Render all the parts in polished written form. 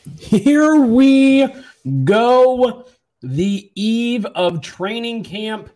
Here we go. The eve of training camp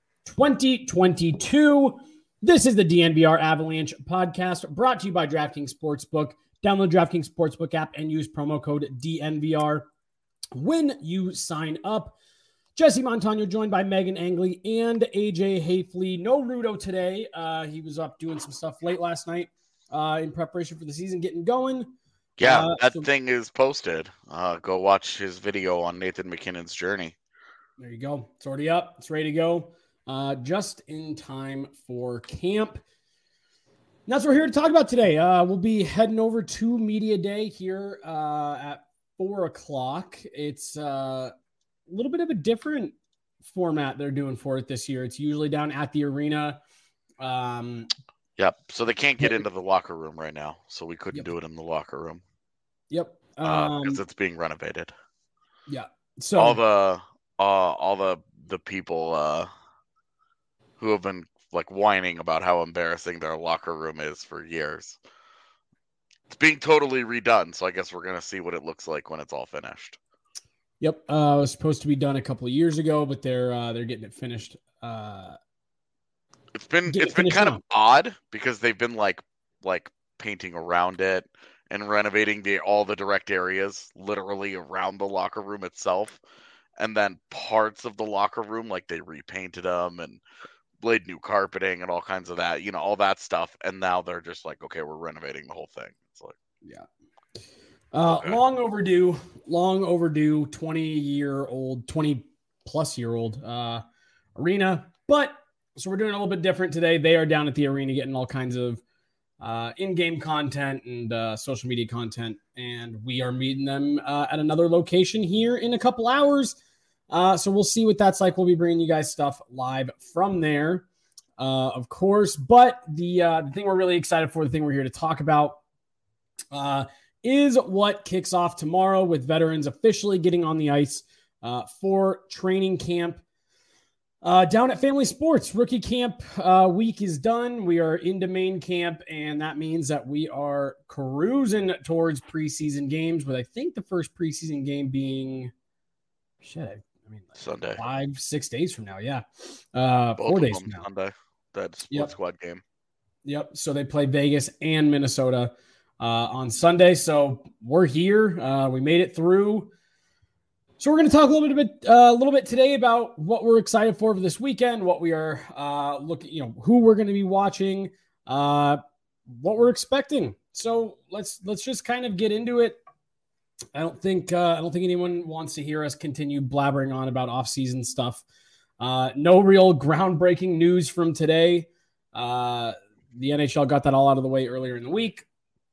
2022. This is the DNVR Avalanche podcast brought to you by DraftKings Sportsbook. Download DraftKings Sportsbook app and use promo code DNVR when you sign up. Jesse Montano joined by Megan Angley and AJ Hafley. No Rudo today. He was up doing some stuff late last night in preparation for the season getting going. Yeah, that thing is posted. Go watch his video on Nathan MacKinnon's journey. There you go. It's already up. It's ready to go. Just in time for camp. And that's what we're here to talk about today. We'll be heading over to Media Day here at 4 o'clock. It's a little bit of a different format they're doing for it this year. It's usually down at the arena. Yep. So they can't get into the locker room right now. So we couldn't do it in the locker room. Yep. Because it's being renovated. Yeah. So all the people who have been like whining about how embarrassing their locker room is for years. It's being totally redone. So I guess we're gonna see what it looks like when it's all finished. Yep. It was supposed to be done a couple of years ago, but they're getting it finished. It's been kind of odd because they've been like painting around it and renovating all the direct areas literally around the locker room itself, and then parts of the locker room like they repainted them and laid new carpeting and all kinds of that, all that stuff. And now they're just like, okay, we're renovating the whole thing. It's like, yeah. Okay. Long overdue, 20 plus year old arena. But so we're doing a little bit different today. They are down at the arena getting all kinds of in-game content and social media content. And we are meeting them at another location here in a couple hours. So we'll see what that's like. We'll be bringing you guys stuff live from there, of course. But the thing we're really excited for, the thing we're here to talk about is what kicks off tomorrow with veterans officially getting on the ice for training camp down at Family Sports. Rookie camp week is done. We are into main camp, and that means that we are cruising towards preseason games, with I think the first preseason game being Sunday, 5-6 days from now. Yeah. 4 days from now. Sunday. That split squad game. Yep. So they play Vegas and Minnesota on Sunday. So we're here. We made it through. So we're going to talk a little bit today about what we're excited for this weekend, what we are looking, who we're going to be watching, what we're expecting. So let's just kind of get into it. I don't think anyone wants to hear us continue blabbering on about off-season stuff. No real groundbreaking news from today. The NHL got that all out of the way earlier in the week.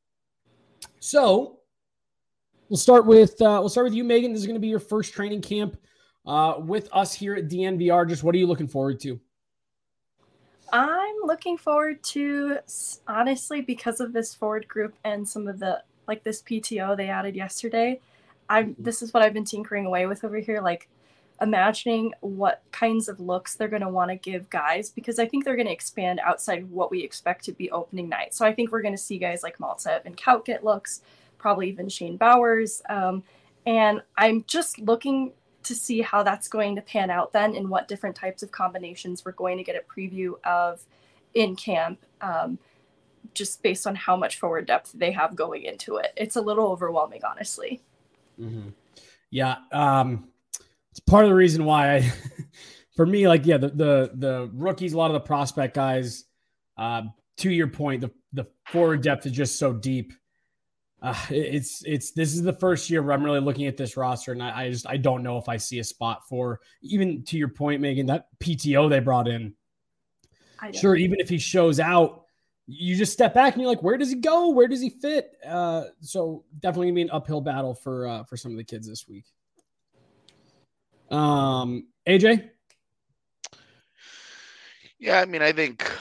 So we'll start with you, Megan. This is going to be your first training camp with us here at DNVR. Just what are you looking forward to? I'm looking forward to, honestly, because of this forward group and some of the this PTO they added yesterday. This is what I've been tinkering away with over here, imagining what kinds of looks they're going to want to give guys, because I think they're going to expand outside what we expect to be opening night. So I think we're going to see guys like Maltsev and Kaut get looks, probably even Shane Bowers. And I'm just looking to see how that's going to pan out then, and what different types of combinations we're going to get a preview of in camp. Just based on how much forward depth they have going into it. It's a little overwhelming, honestly. Mm-hmm. Yeah. It's part of the reason why for me, the rookies, a lot of the prospect guys, to your point, the forward depth is just so deep. This is the first year where I'm really looking at this roster, and I don't know if I see a spot for, even to your point, Megan, that PTO they brought in. Sure. Even if he shows out, you just step back and you're like, where does he go? Where does he fit? So definitely gonna be an uphill battle for some of the kids this week. AJ? Yeah, I mean, I think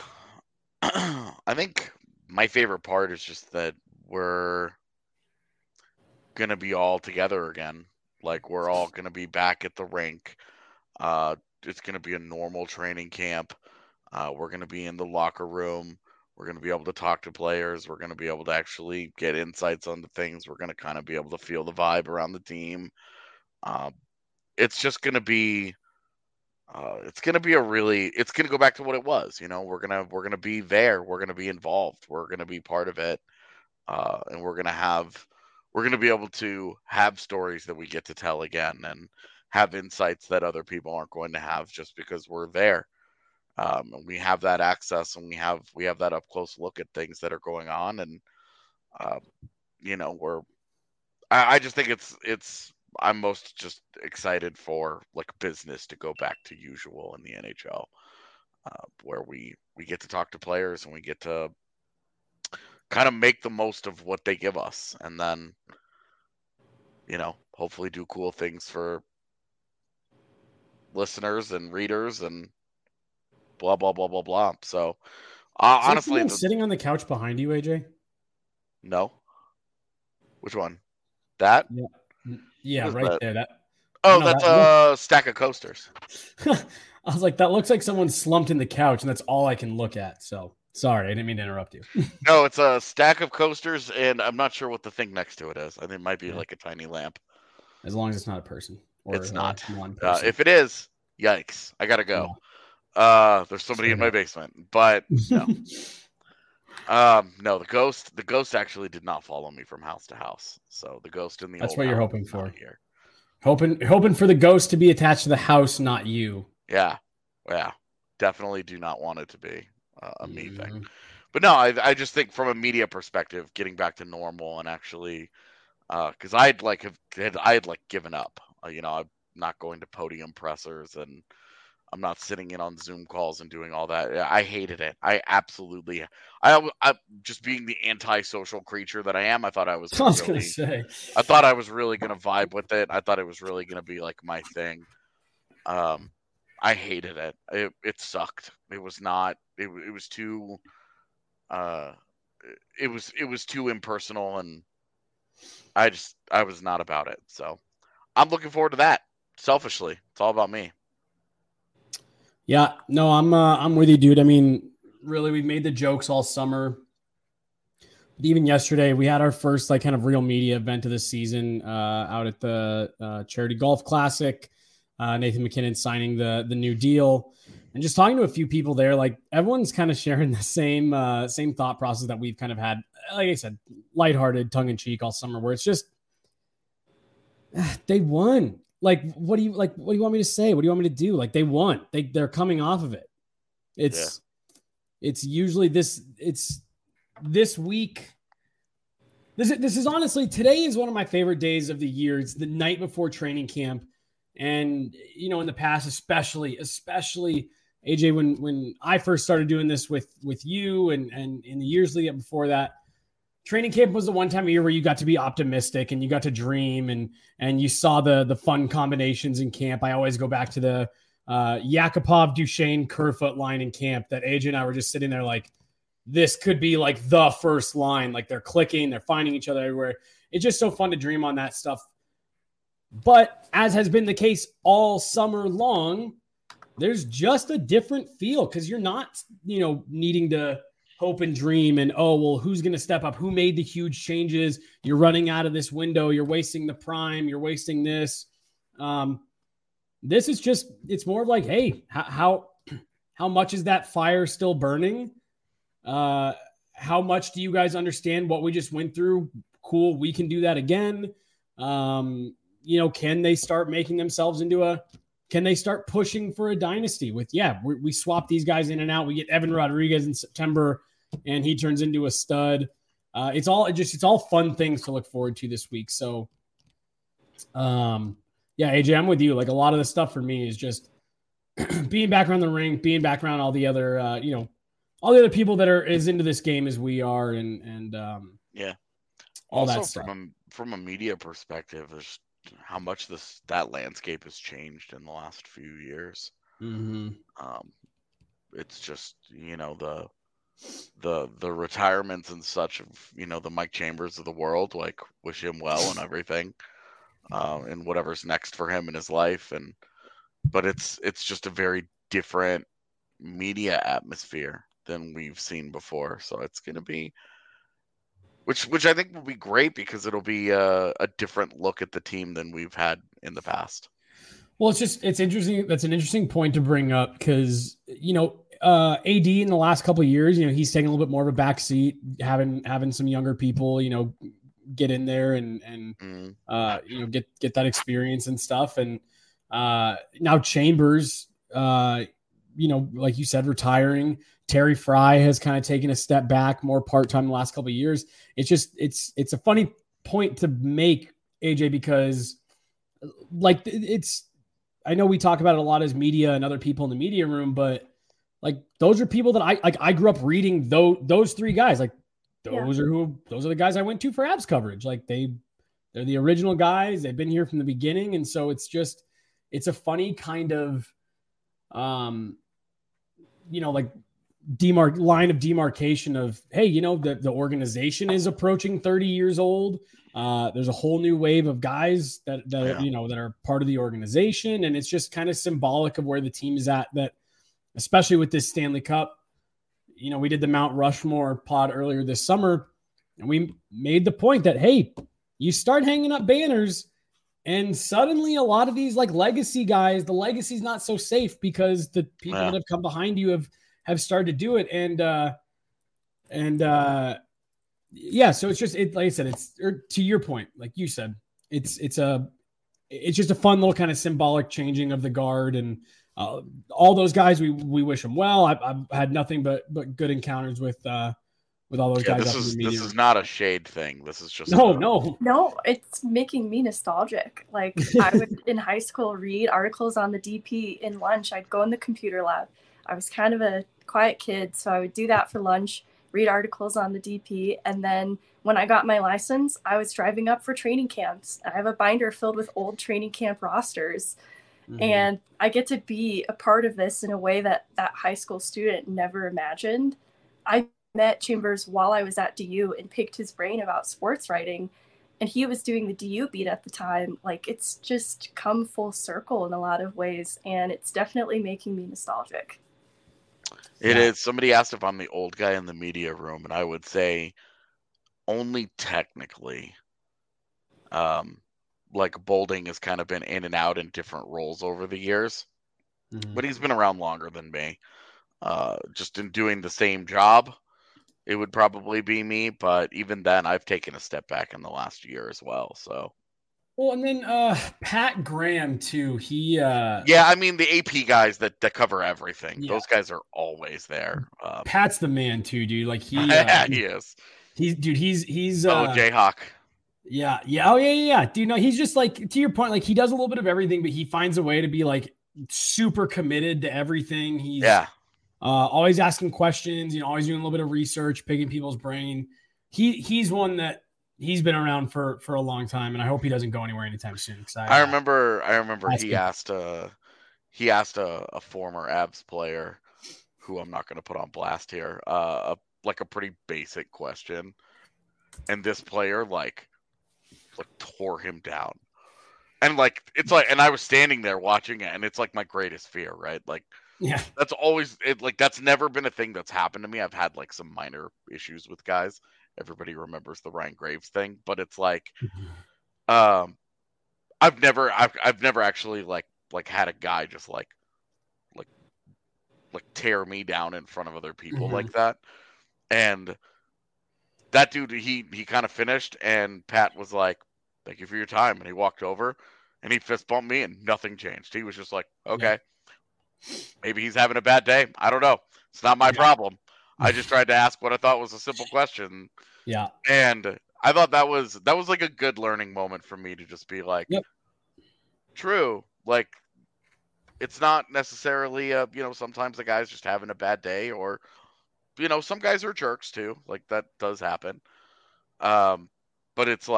my favorite part is just that we're gonna be all together again. Like, we're all gonna be back at the rink. It's gonna be a normal training camp. We're gonna be in the locker room. We're going to be able to talk to players. We're going to be able to actually get insights onto things. We're going to kind of be able to feel the vibe around the team. It's just going to be. It's going to be it's going to go back to what it was. We're going to be there. We're going to be involved. We're going to be part of it. And we're going to be able to have stories that we get to tell again and have insights that other people aren't going to have just because we're there. And we have that access, and we have that up close look at things that are going on. And, I just think I'm most just excited for like business to go back to usual in the NHL, where we get to talk to players and we get to kind of make the most of what they give us, and then hopefully do cool things for listeners and readers and blah blah blah blah blah. So honestly, sitting on the couch behind you, AJ. No. Which one? That? Yeah, right that? there. That's a stack of coasters. I was like, that looks like someone slumped in the couch, and that's all I can look at. So sorry, I didn't mean to interrupt you. No, it's a stack of coasters, and I'm not sure what the thing next to it is. I think it might be like a tiny lamp. As long as it's not a person. Or it's not. One person. If it is, yikes! I gotta go. Yeah. There's somebody in my basement, but no. No, the ghost actually did not follow me from house to house. So the ghost in the That's old what you're house hoping for here. Hoping for the ghost to be attached to the house, not you. Yeah. Definitely do not want it to be a me thing. But no, I just think from a media perspective, getting back to normal and actually, because I had given up. I'm not going to podium pressers, and I'm not sitting in on Zoom calls and doing all that. I hated it. I just being the antisocial creature that I am. I thought I was. I thought I was really going to vibe with it. I thought it was really going to be like my thing. I hated it. It sucked. It was not. It was too. It was too impersonal, and I was not about it. So I'm looking forward to that. Selfishly, it's all about me. Yeah, no, I'm with you, dude. I mean, really, we've made the jokes all summer. But even yesterday, we had our first kind of real media event of the season out at the Charity Golf Classic. Nathan MacKinnon signing the new deal, and just talking to a few people there. Like everyone's kind of sharing the same thought process that we've kind of had. Like I said, lighthearted, tongue in cheek all summer. Where it's just they won. Like, what do you want me to say? What do you want me to do? Like, they won. They're coming off of it. It's usually this week. This is honestly, today is one of my favorite days of the year. It's the night before training camp. And, in the past, especially AJ, when I first started doing this with you and in the years leading up before that, training camp was the one time of year where you got to be optimistic and you got to dream and you saw the fun combinations in camp. I always go back to the Yakupov, Duchesne, Kerfoot line in camp that AJ and I were just sitting there like, this could be like the first line. Like they're clicking, they're finding each other everywhere. It's just so fun to dream on that stuff. But as has been the case all summer long, there's just a different feel because you're not, needing to hope and dream and, who's going to step up? Who made the huge changes? You're running out of this window. You're wasting the prime. You're wasting this. This is just, it's more of like, hey, how much is that fire still burning? How much do you guys understand what we just went through? Cool. We can do that again. Can they start making themselves can they start pushing for a dynasty with, we swap these guys in and out. We get Evan Rodriguez in September and he turns into a stud. It's all fun things to look forward to this week. So, AJ, I'm with you. Like a lot of the stuff for me is just being back around the ring, being back around all the other, all the other people that are as into this game as we are. And all also that stuff. From a media perspective, there's how much that landscape has changed in the last few years. Mm-hmm. It's just, the retirements and such of, the Mike Chambers of the world, like wish him well and everything, and whatever's next for him in his life. But it's just a very different media atmosphere than we've seen before. So it's going to be, which I think will be great because it'll be a different look at the team than we've had in the past. Well, it's interesting. That's an interesting point to bring up because, AD in the last couple of years, he's taking a little bit more of a back seat, having some younger people, get in there and get that experience and stuff. And now Chambers, like you said, retiring. Terry Fry has kind of taken a step back, more part-time the last couple of years. It's a funny point to make, AJ, because I know we talk about it a lot as media and other people in the media room, but those are people that I grew up reading those three guys. Those are the guys I went to for Abs coverage. they're the original guys. They've been here from the beginning. And so it's a funny kind of, line of demarcation of, hey, the organization is approaching 30 years old. There's a whole new wave of guys that are part of the organization. And it's just kind of symbolic of where the team is at, that especially with this Stanley Cup. We did the Mount Rushmore pod earlier this summer, and we made the point that, hey, you start hanging up banners and suddenly a lot of these legacy guys, the legacy's not so safe because the people that have come behind you have started to do it. So it's just, like I said, to your point, like you said, it's just a fun little kind of symbolic changing of the guard, and all those guys, we wish them well. I've had nothing but good encounters with all those guys. This is not a shade thing. This is just no. It's making me nostalgic. I would in high school read articles on the DP in lunch. I'd go in the computer lab. I was kind of a quiet kid, so I would do that for lunch, read articles on the DP, and then when I got my license, I was driving up for training camps. I have a binder filled with old training camp rosters. Mm-hmm. And I get to be a part of this in a way that high school student never imagined. I met Chambers while I was at DU and picked his brain about sports writing. And he was doing the DU beat at the time. It's just come full circle in a lot of ways. And it's definitely making me nostalgic. It is. Somebody asked if I'm the old guy in the media room, and I would say only technically. Bolding has kind of been in and out in different roles over the years, but he's been around longer than me. Just in doing the same job, it would probably be me. But even then, I've taken a step back in the last year as well. So, well, and then Pat Graham too. He, the AP guys that cover everything. Yeah. Those guys are always there. Pat's the man too, dude. He is. He's Jayhawk. Yeah. Oh, yeah. Dude, no, he's just to your point, he does a little bit of everything, but he finds a way to be super committed to everything. He's always asking questions, always doing a little bit of research, picking people's brain. He's one that he's been around for a long time, and I hope he doesn't go anywhere anytime soon. I remember he asked a former Abs player, who I'm not going to put on blast here, a pretty basic question, and this player tore him down, and and I was standing there watching it, and it's my greatest fear, right? That's always it. That's never been a thing that's happened to me. I've had some minor issues with guys. Everybody remembers the Ryan Graves thing, but it's I've never actually had a guy just tear me down in front of other people like that. And that dude, he kind of finished, and Pat was like, "Thank you for your time," and he walked over and he fist bumped me, and nothing changed. He was just like, "Okay, maybe he's having a bad day. I don't know. It's not my problem. I just tried to ask what I thought was a simple question." Yeah. And I thought that was a good learning moment for me to just be true. It's not necessarily sometimes the guy's just having a bad day, or some guys are jerks too. That does happen. But it's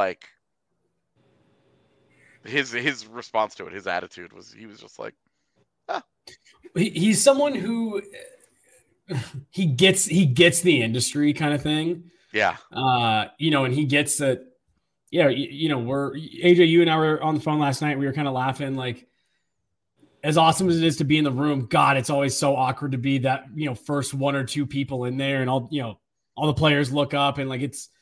his response to it, his attitude was, he was just he's someone who he gets the industry kind of thing. Yeah. And he gets that. Yeah. We're AJ, you and I were on the phone last night. We were kind of laughing. as awesome as it is to be in the room, God, it's always so awkward to be that, first one or two people in there, and all the players look up, and like it's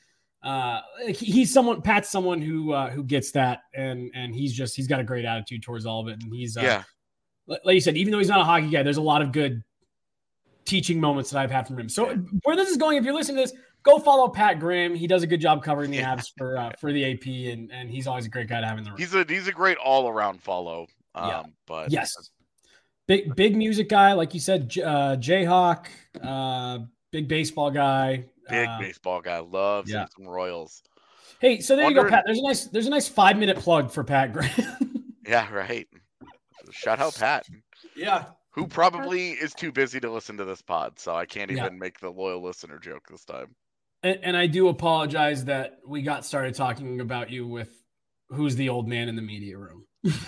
Pat's someone who gets that, and he's got a great attitude towards all of it, and he's like you said, even though he's not a hockey guy, there's a lot of good teaching moments that I've had from him. So where this is going, if you're listening to this, go follow Pat Graham. He does a good job covering the Avs for the AP, and he's always a great guy to have in the room. He's a great all around follow. But yes, big music guy, like you said, Jayhawk, big baseball guy. Baseball guy loves some Royals. Hey, so there you go, Pat. There's a nice 5-minute plug for Pat Graham. Yeah, right. Shout out Pat. Yeah. Who probably is too busy to listen to this pod, so I can't even make the loyal listener joke this time. And I do apologize that we got started talking about you with who's the old man in the media room.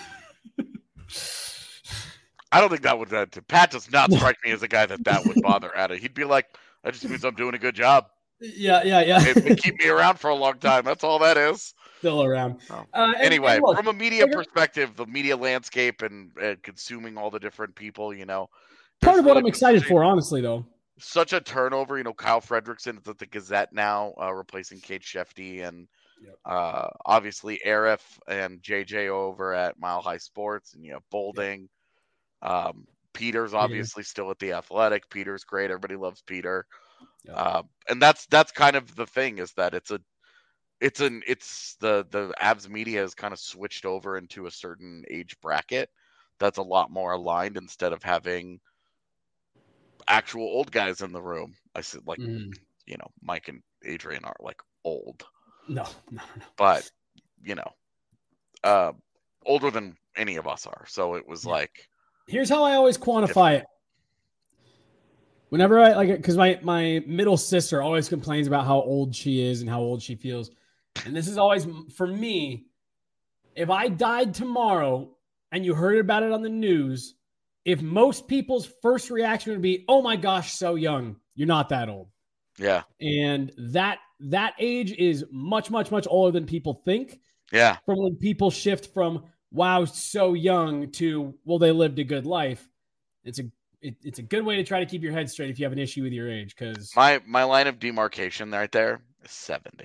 I don't think that would. Pat does not strike me as a guy that would bother at it. He'd be like, "That just means I'm doing a good job." Yeah. It keep me around for a long time. That's all that is. Still around. Anyway, from a media perspective, the media landscape and consuming all the different people, part of what I'm excited for, honestly, though. Such a turnover. Kyle Fredrickson is at the Gazette now, replacing Kate Shefty, and obviously Arif and JJ over at Mile High Sports, and Bolding. Peter's obviously still at the Athletic. Peter's great. Everybody loves Peter. And that's kind of the thing, is that it's the Avs media has kind of switched over into a certain age bracket that's a lot more aligned, instead of having actual old guys in the room. I said, like, Mike and Adrian are like old. No. But, older than any of us are. So it was like, here's how I always quantify it. Whenever I like it, because my middle sister always complains about how old she is and how old she feels. And this is always, for me, if I died tomorrow and you heard about it on the news, if most people's first reaction would be, "Oh my gosh, so young," you're not that old. Yeah. And that age is much, much, much older than people think. Yeah. From when people shift from, "Wow, so young," to, "Well, they lived a good life." It's a good way to try to keep your head straight if you have an issue with your age. Because my line of demarcation right there is 70.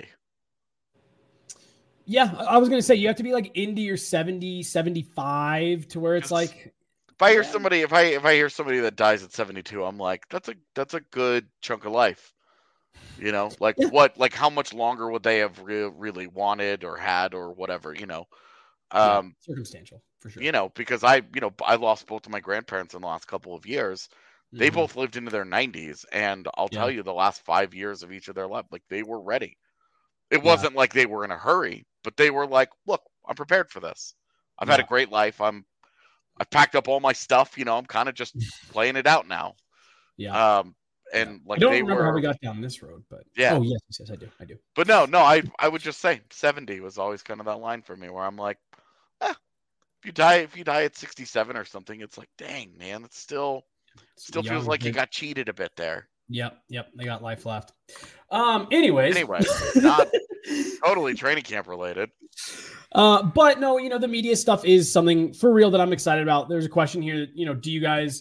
Yeah, I was going to say, you have to be like into your 70, 75 to where it's like, if I hear somebody, if I hear somebody that dies at 72, I'm like, that's a good chunk of life. Like how much longer would they have really wanted or had or whatever, circumstantial for sure. Because I lost both of my grandparents in the last couple of years. They both lived into their 90s, and I'll tell you, the last 5 years of each of their life, like, they were ready. It wasn't like they were in a hurry, but they were like, "Look, I'm prepared for this. I've had a great life. I've packed up all my stuff. I'm kind of just playing it out now." Yeah. And like, I don't remember how we got down this road, but yeah. Oh yes, I do. But no, I would just say 70 was always kind of that line for me, where I'm like, if you die at 67 or something, it's like, dang, man, it still feels like you got cheated a bit there. Yep. They got life left. Anyway, not totally training camp related. But no, the media stuff is something for real that I'm excited about. There's a question here, do you guys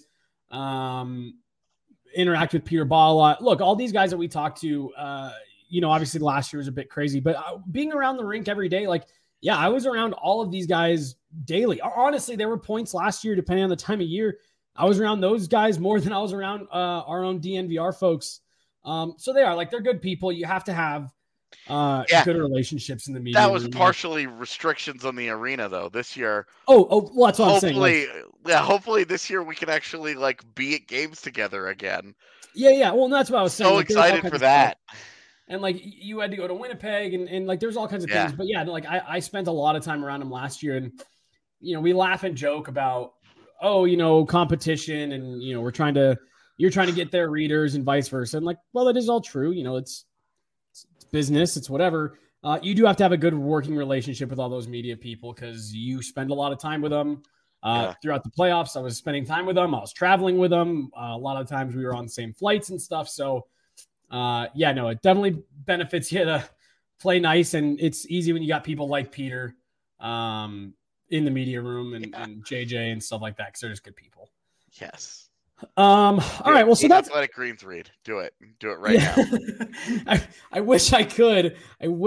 interact with Peter Baugh a lot? Look, all these guys that we talk to, obviously last year was a bit crazy, but being around the rink every day, like, yeah, I was around all of these guys daily. Honestly, there were points last year, depending on the time of year, I was around those guys more than I was around our own DNVR folks. So they are, like, they're good people. You have to have good relationships in the media. That was partially restrictions on the arena, though, this year. Oh, well, that's what I'm saying. Hopefully this year we can actually, like, be at games together again. Yeah. Well, that's what I was saying. So excited for that. And, like, you had to go to Winnipeg, and like, there's all kinds of things. But yeah, like, I spent a lot of time around him last year, and we laugh and joke about, competition, and you're trying to get their readers and vice versa. And, like, well, that is all true. It's business, it's whatever. You do have to have a good working relationship with all those media people, because you spend a lot of time with them throughout the playoffs. I was spending time with them. I was traveling with them. A lot of times we were on the same flights and stuff. So it definitely benefits you to play nice, and it's easy when you got people like Peter in the media room and JJ and stuff like that because they're just good people. Yes. All right. Well, so that's Athletic Greens read. Do it right now. I wish I could.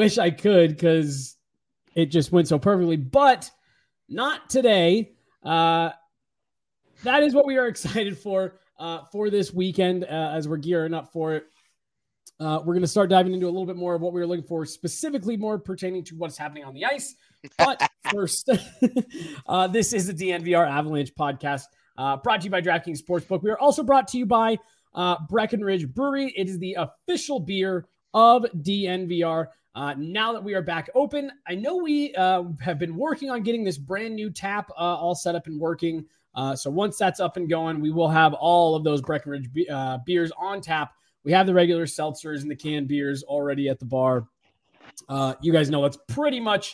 Because it just went so perfectly, but not today. That is what we are excited for this weekend as we're gearing up for it. We're going to start diving into a little bit more of what we were looking for, specifically more pertaining to what's happening on the ice. But first, this is the DNVR Avalanche podcast. Brought to you by DraftKings Sportsbook. We are also brought to you by Breckenridge Brewery. It is the official beer of DNVR. Now that we are back open, I know we have been working on getting this brand new tap all set up and working. So once that's up and going, we will have all of those Breckenridge beers on tap. We have the regular seltzers and the canned beers already at the bar. You guys know that's pretty much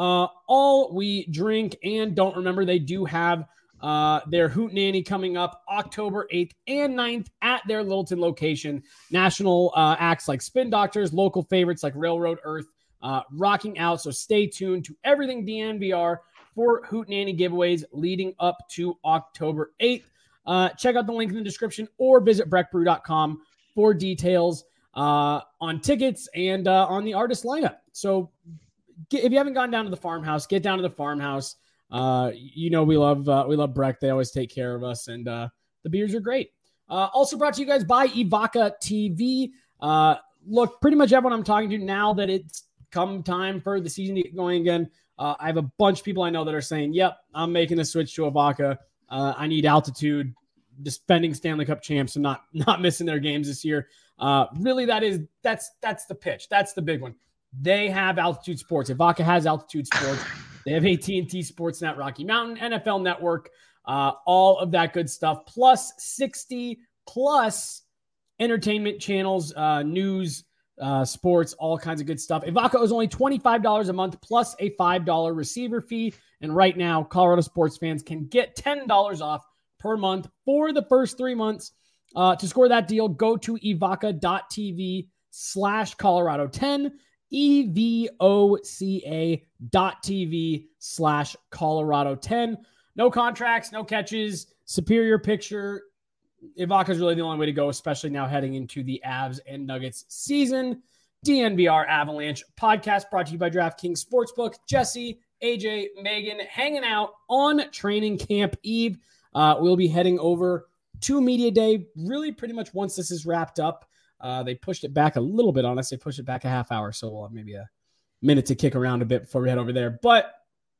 all we drink. And don't remember, they do have their Hootenanny coming up October 8th and 9th at their Littleton location. National acts like Spin Doctors, local favorites like Railroad Earth, rocking out. So stay tuned to everything DNVR for Hootenanny giveaways leading up to October 8th. Check out the link in the description or visit breckbrew.com for details on tickets and on the artist lineup. So if you haven't gone down to the farmhouse, get down to the farmhouse. We love Breck. They always take care of us, and the beers are great. Also brought to you guys by Evoca TV. Look, pretty much everyone I'm talking to now that it's come time for the season to get going again. I have a bunch of people I know that are saying, yep, I'm making the switch to Evoca. I need altitude, defending Stanley Cup champs and not missing their games this year. Really, that's the pitch. That's the big one. They have Altitude Sports. Evoca has Altitude Sports. They have AT&T Sportsnet, Rocky Mountain, NFL Network, all of that good stuff, plus 60 plus entertainment channels, news, sports, all kinds of good stuff. Evoca is only $25 a month plus a $5 receiver fee. And right now, Colorado sports fans can get $10 off per month for the first 3 months. To score that deal, go to evoca.tv/Colorado10. evoca.tv/Colorado10. No contracts, no catches, superior picture. Evoca is really the only way to go, especially now heading into the Avs and Nuggets season. DNVR Avalanche podcast brought to you by DraftKings Sportsbook. Jesse, AJ, Megan hanging out on training camp eve. We'll be heading over to Media Day really pretty much once this is wrapped up. They pushed it back a little bit on us. They pushed it back a half hour, so we'll have maybe a minute to kick around a bit before we head over there. But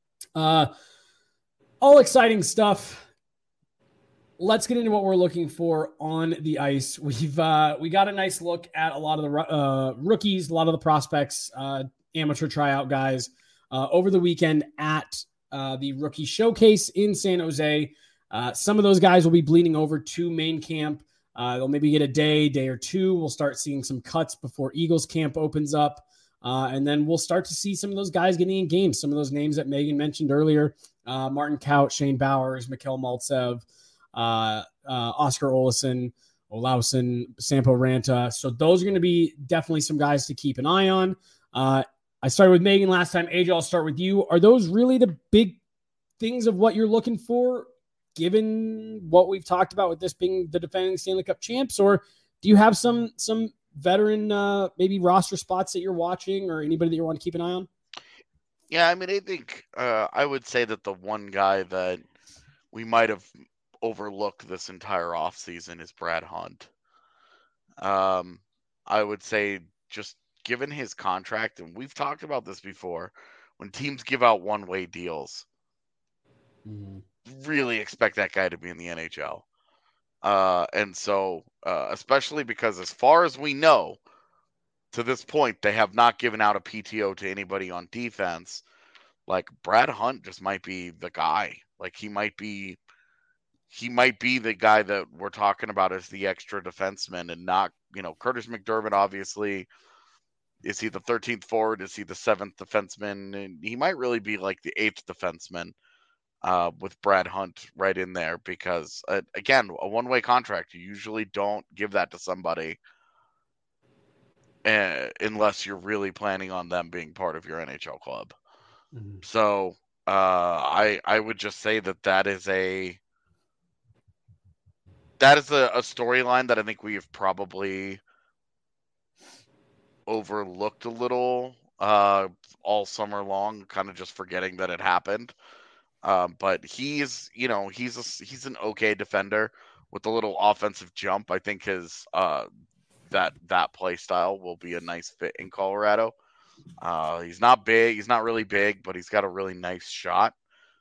all exciting stuff. Let's get into what we're looking for on the ice. We got a nice look at a lot of the rookies, a lot of the prospects, amateur tryout guys over the weekend at the rookie showcase in San Jose. Some of those guys will be bleeding over to main camp. They'll maybe get a day or two. We'll start seeing some cuts before Eagles camp opens up. And then we'll start to see some of those guys getting in games. Some of those names that Megan mentioned earlier, Martin Kaut, Shane Bowers, Mikhail Maltsev, Oscar Olausson, Sampo Ranta. So those are going to be definitely some guys to keep an eye on. I started with Megan last time. AJ, I'll start with you. Are those really the big things of what you're looking for, given what we've talked about with this being the defending Stanley Cup champs? Or do you have some veteran maybe roster spots that you're watching or anybody that you want to keep an eye on? Yeah, I mean, I think I would say that the one guy that we might have overlooked this entire offseason is Brad Hunt. I would say just given his contract, and we've talked about this before, when teams give out one-way deals, really expect that guy to be in the NHL. And so, especially because as far as we know, to this point, they have not given out a PTO to anybody on defense. Like, Brad Hunt just might be the guy. Like, he might be the guy that we're talking about as the extra defenseman, and not, Curtis McDermott, obviously. Is he the 13th forward? Is he the 7th defenseman? And he might really be like the 8th defenseman with Brad Hunt right in there because, again, a one-way contract, you usually don't give that to somebody unless you're really planning on them being part of your NHL club. Mm-hmm. So I would just say that is a storyline that I think we have probably overlooked a little all summer long, kind of just forgetting that it happened. But he's an okay defender with a little offensive jump. I think his that play style will be a nice fit in Colorado. He's not big, he's not really big, but he's got a really nice shot.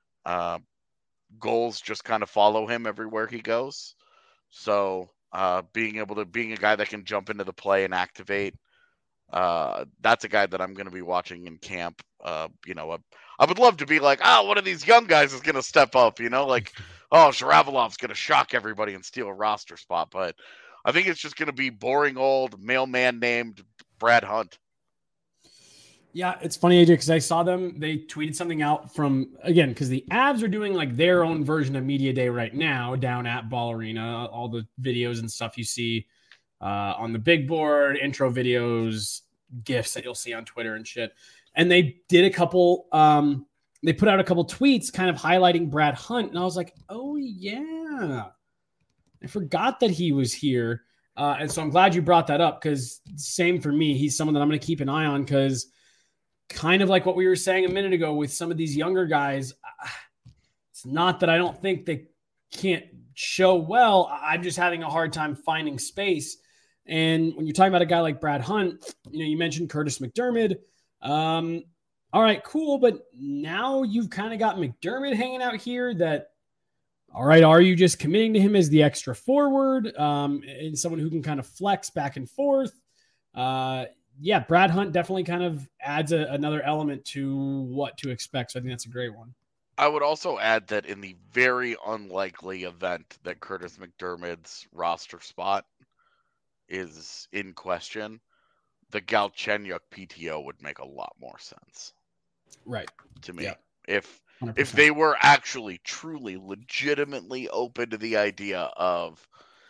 Goals just kind of follow him everywhere he goes. So being a guy that can jump into the play and activate, that's a guy that I'm going to be watching in camp. I would love to be like, one of these young guys is going to step up, like, Sharavilov's going to shock everybody and steal a roster spot. But I think it's just going to be boring old mailman named Brad Hunt. Yeah, it's funny, AJ, because I saw them. They tweeted something out because the Avs are doing like their own version of Media Day right now down at Ball Arena. All the videos and stuff you see on the big board, intro videos, GIFs that you'll see on Twitter and shit. And they did a couple, they put out a couple tweets kind of highlighting Brad Hunt. And I was like, oh, yeah. I forgot that he was here. And so I'm glad you brought that up because same for me. He's someone that I'm going to keep an eye on because kind of like what we were saying a minute ago with some of these younger guys, it's not that I don't think they can't show well. I'm just having a hard time finding space. And when you're talking about a guy like Brad Hunt, you mentioned Curtis McDermott. All right, cool. But now you've kind of got McDermott hanging out here that, all right, are you just committing to him as the extra forward and someone who can kind of flex back and forth? Yeah, Brad Hunt definitely kind of adds another element to what to expect. So I think that's a great one. I would also add that in the very unlikely event that Curtis McDermott's roster spot is in question, the Galchenyuk PTO would make a lot more sense. Right. To me. Yep. If they were actually truly legitimately open to the idea of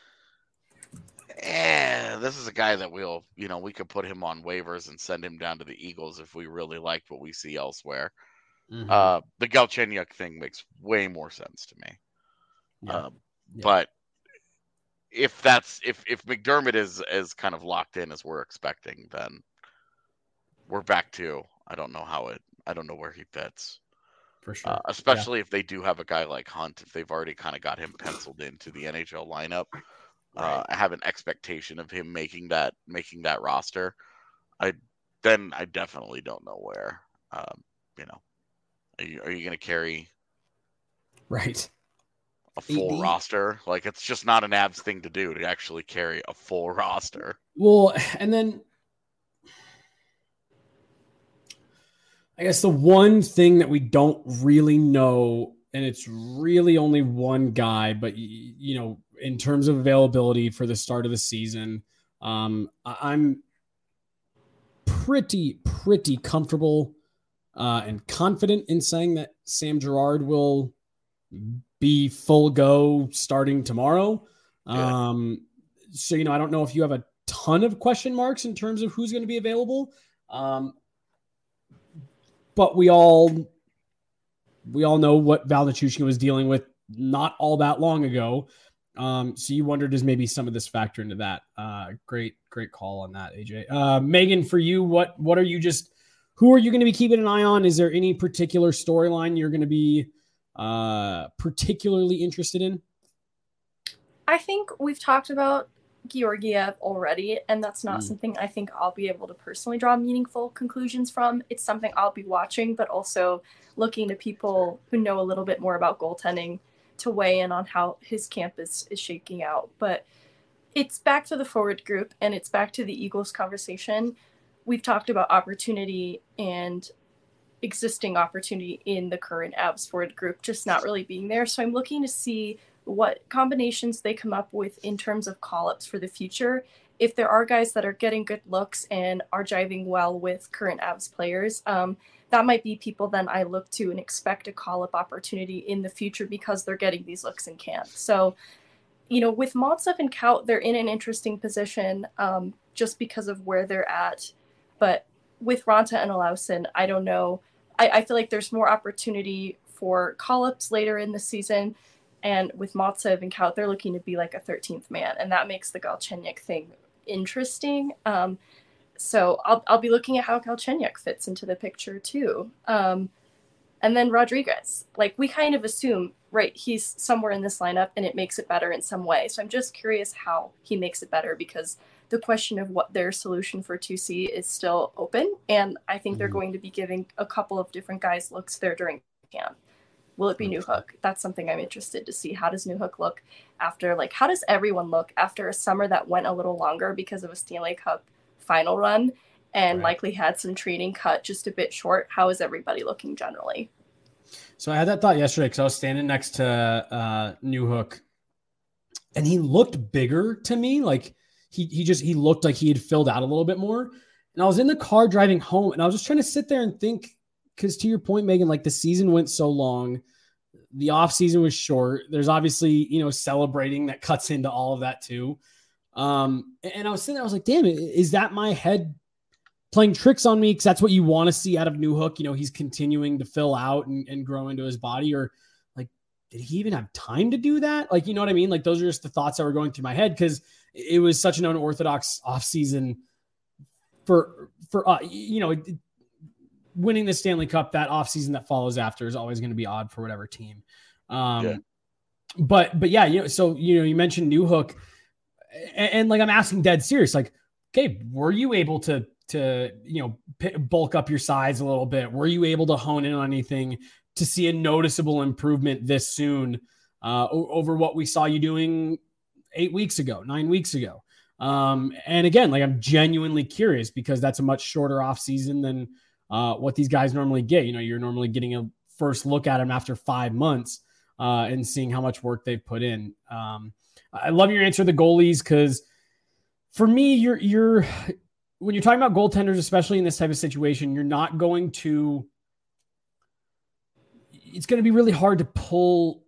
this is a guy that we could put him on waivers and send him down to the Eagles if we really liked what we see elsewhere. Mm-hmm. The Galchenyuk thing makes way more sense to me. Yeah. But if McDermott is kind of locked in as we're expecting, then we're back to I don't know where he fits. For sure. Especially if they do have a guy like Hunt, if they've already kind of got him penciled into the NHL lineup. Right. I have an expectation of him making that roster. I definitely don't know where. Are you going to carry a full roster? Like, it's just not an Avs thing to do to actually carry a full roster. Well, and then I guess the one thing that we don't really know, and it's really only one guy, but in terms of availability for the start of the season, I'm pretty comfortable and confident in saying that Sam Girard will be full go starting tomorrow. Yeah. So, I don't know if you have a ton of question marks in terms of who's going to be available. But we all know what Val Nichushkin was dealing with not all that long ago. So you wondered, does maybe some of this factor into that? Great call on that, AJ. Megan, for you, who are you going to be keeping an eye on? Is there any particular storyline you're going to be particularly interested in? I think we've talked about Georgiev already, and that's not something I think I'll be able to personally draw meaningful conclusions from. It's something I'll be watching, but also looking to people who know a little bit more about goaltending to weigh in on how his camp is shaking out. But it's back to the forward group, and it's back to the Eagles conversation. We've talked about opportunity and existing opportunity in the current Avs forward group just not really being there. So I'm looking to see what combinations they come up with in terms of call-ups for the future. If there are guys that are getting good looks and are jiving well with current Avs players, that might be people then I look to and expect a call-up opportunity in the future because they're getting these looks in camp. So, with Maltsev and Kaut, they're in an interesting position just because of where they're at. But with Raanta and Olausson, I don't know. I feel like there's more opportunity for call-ups later in the season. And with Maltsev and Kaut, they're looking to be like a 13th man. And that makes the Galchenyuk thing interesting. So I'll be looking at how Galchenyuk fits into the picture too. And then Rodriguez, like we kind of assume, right, he's somewhere in this lineup and it makes it better in some way. So I'm just curious how he makes it better, because the question of what their solution for 2C is still open. And I think they're going to be giving a couple of different guys looks there during camp. Will it be Newhook? That's something I'm interested to see. How does Newhook look after, like, how does everyone look after a summer that went a little longer because of a Stanley Cup final run and likely had some training cut just a bit short? How is everybody looking generally? So I had that thought yesterday because I was standing next to Newhook, and he looked bigger to me. Like he looked like he had filled out a little bit more. And I was in the car driving home, and I was just trying to sit there and think, because to your point, Megan, like the season went so long, the off season was short. There's obviously, celebrating that cuts into all of that too. And I was sitting there, I was like, damn it, is that my head playing tricks on me? Because that's what you want to see out of Newhook. He's continuing to fill out and grow into his body. Or like, did he even have time to do that? Like, you know what I mean? Like, those are just the thoughts that were going through my head, because it was such an unorthodox off season for winning the Stanley Cup. That offseason that follows after is always going to be odd for whatever team. But yeah, so, you mentioned Newhook, and like, I'm asking dead serious, like, okay, were you able to bulk up your size a little bit? Were you able to hone in on anything to see a noticeable improvement this soon over what we saw you doing 9 weeks ago? And again, like, I'm genuinely curious, because that's a much shorter off season than what these guys normally get. You're normally getting a first look at them after 5 months and seeing how much work they've put in. I love your answer to the goalies, because for me, you're when you're talking about goaltenders, especially in this type of situation, you're not going to. It's going to be really hard to pull,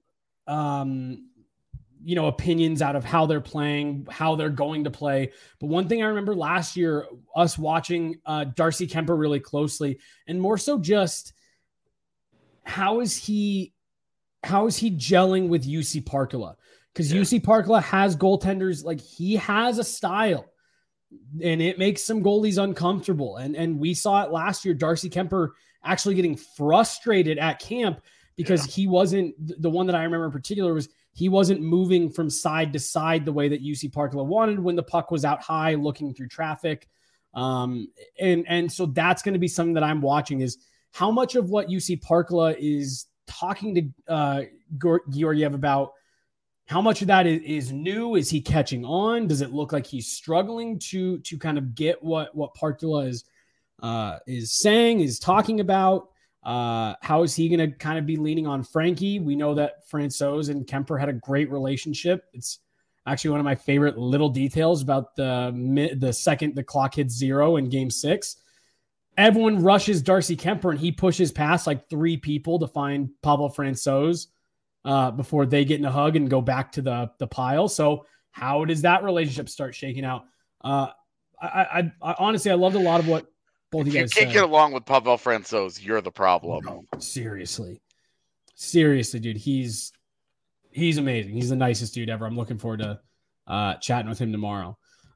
opinions out of how they're playing, how they're going to play. But one thing I remember last year, us watching Darcy Kemper really closely, and more so just how is he gelling with UC Parkala? Because UC Parkala has goaltenders, like, he has a style, and it makes some goalies uncomfortable. And we saw it last year, Darcy Kemper actually getting frustrated at camp because he wasn't, the one that I remember in particular was, he wasn't moving from side to side the way that UC Parkala wanted when the puck was out high looking through traffic. And so that's going to be something that I'm watching, is how much of what UC Parkala is talking to Georgiev about, how much of that is new? Is he catching on? Does it look like he's struggling to kind of get what Parkala is saying, is talking about? How is he going to kind of be leaning on Frankie? We know that Francouz and Kemper had a great relationship. It's actually one of my favorite little details about the second the clock hits 0 in Game 6. Everyone rushes Darcy Kemper, and he pushes past like 3 people to find Pavel Francouz before they get in a hug and go back to the pile. So how does that relationship start shaking out? I honestly, I loved a lot of what both you guys said. If you can't get along with Pavel Francouz, you're the problem. No, seriously, dude. He's amazing. He's the nicest dude ever. I'm looking forward to chatting with him tomorrow.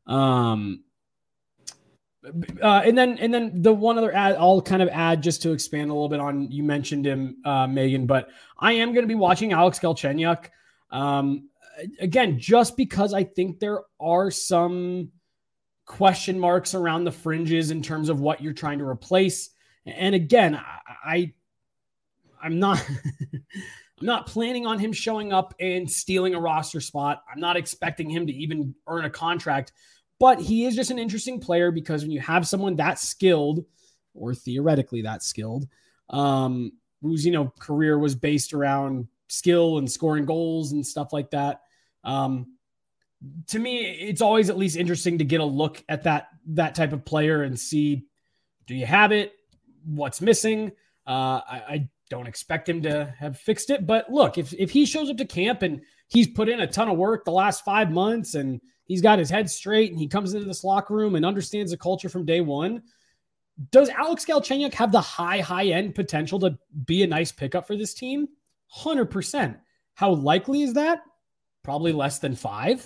And then the one other ad I'll kind of add, just to expand a little bit on, you mentioned him, Megan, but I am going to be watching Alex Galchenyuk. Again, just because I think there are some question marks around the fringes in terms of what you're trying to replace. And again, I'm not I'm not planning on him showing up and stealing a roster spot. I'm not expecting him to even earn a contract. But he is just an interesting player, because when you have someone that skilled, or theoretically that skilled, whose career was based around skill and scoring goals and stuff like that, to me, it's always at least interesting to get a look at that type of player and see, do you have it? What's missing? I don't expect him to have fixed it, but look, if he shows up to camp and he's put in a ton of work the last 5 months, and he's got his head straight, and he comes into this locker room and understands the culture from day one, Does Alex Galchenyuk have the high end potential to be a nice pickup for this team? 100%. How likely is that? Probably less than 5.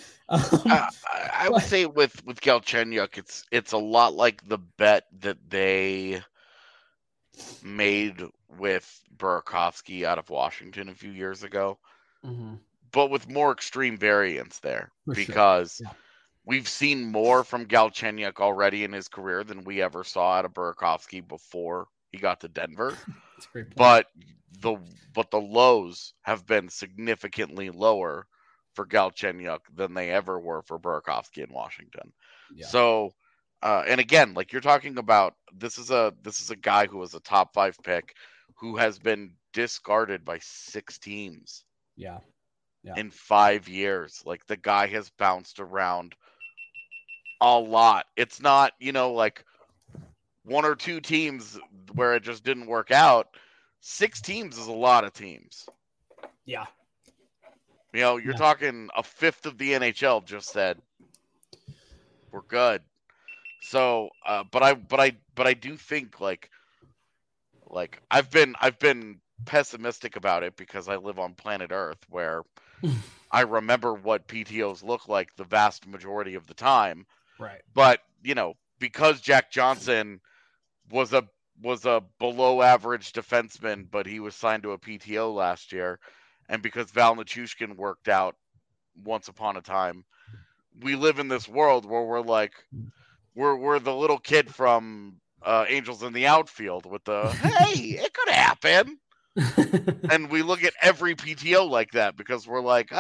I would say with Galchenyuk, it's a lot like the bet that they made with Burakovsky out of Washington a few years ago, but with more extreme variance there, because we've seen more from Galchenyuk already in his career than we ever saw out of Burakovsky before he got to Denver. That's a great point. But the lows have been significantly lower for Galchenyuk than they ever were for Burakovsky in Washington. Yeah. So, and again, like you're talking about, this is a guy who was a top 5 pick who has been discarded by 6 teams. Yeah. In 5 years. Like, the guy has bounced around a lot. It's not, like 1 or 2 teams where it just didn't work out. 6 teams is a lot of teams. Yeah. You're talking a fifth of the NHL just said we're good. So, but I do think like I've been pessimistic about it because I live on planet Earth where I remember what PTOs look like the vast majority of the time. Right. But, because Jack Johnson was a below average defenseman, but he was signed to a PTO last year, and because Val Nichushkin worked out once upon a time, we live in this world where we're like, we're the little kid from Angels in the Outfield with the, hey, it could happen. And we look at every PTO like that because we're like,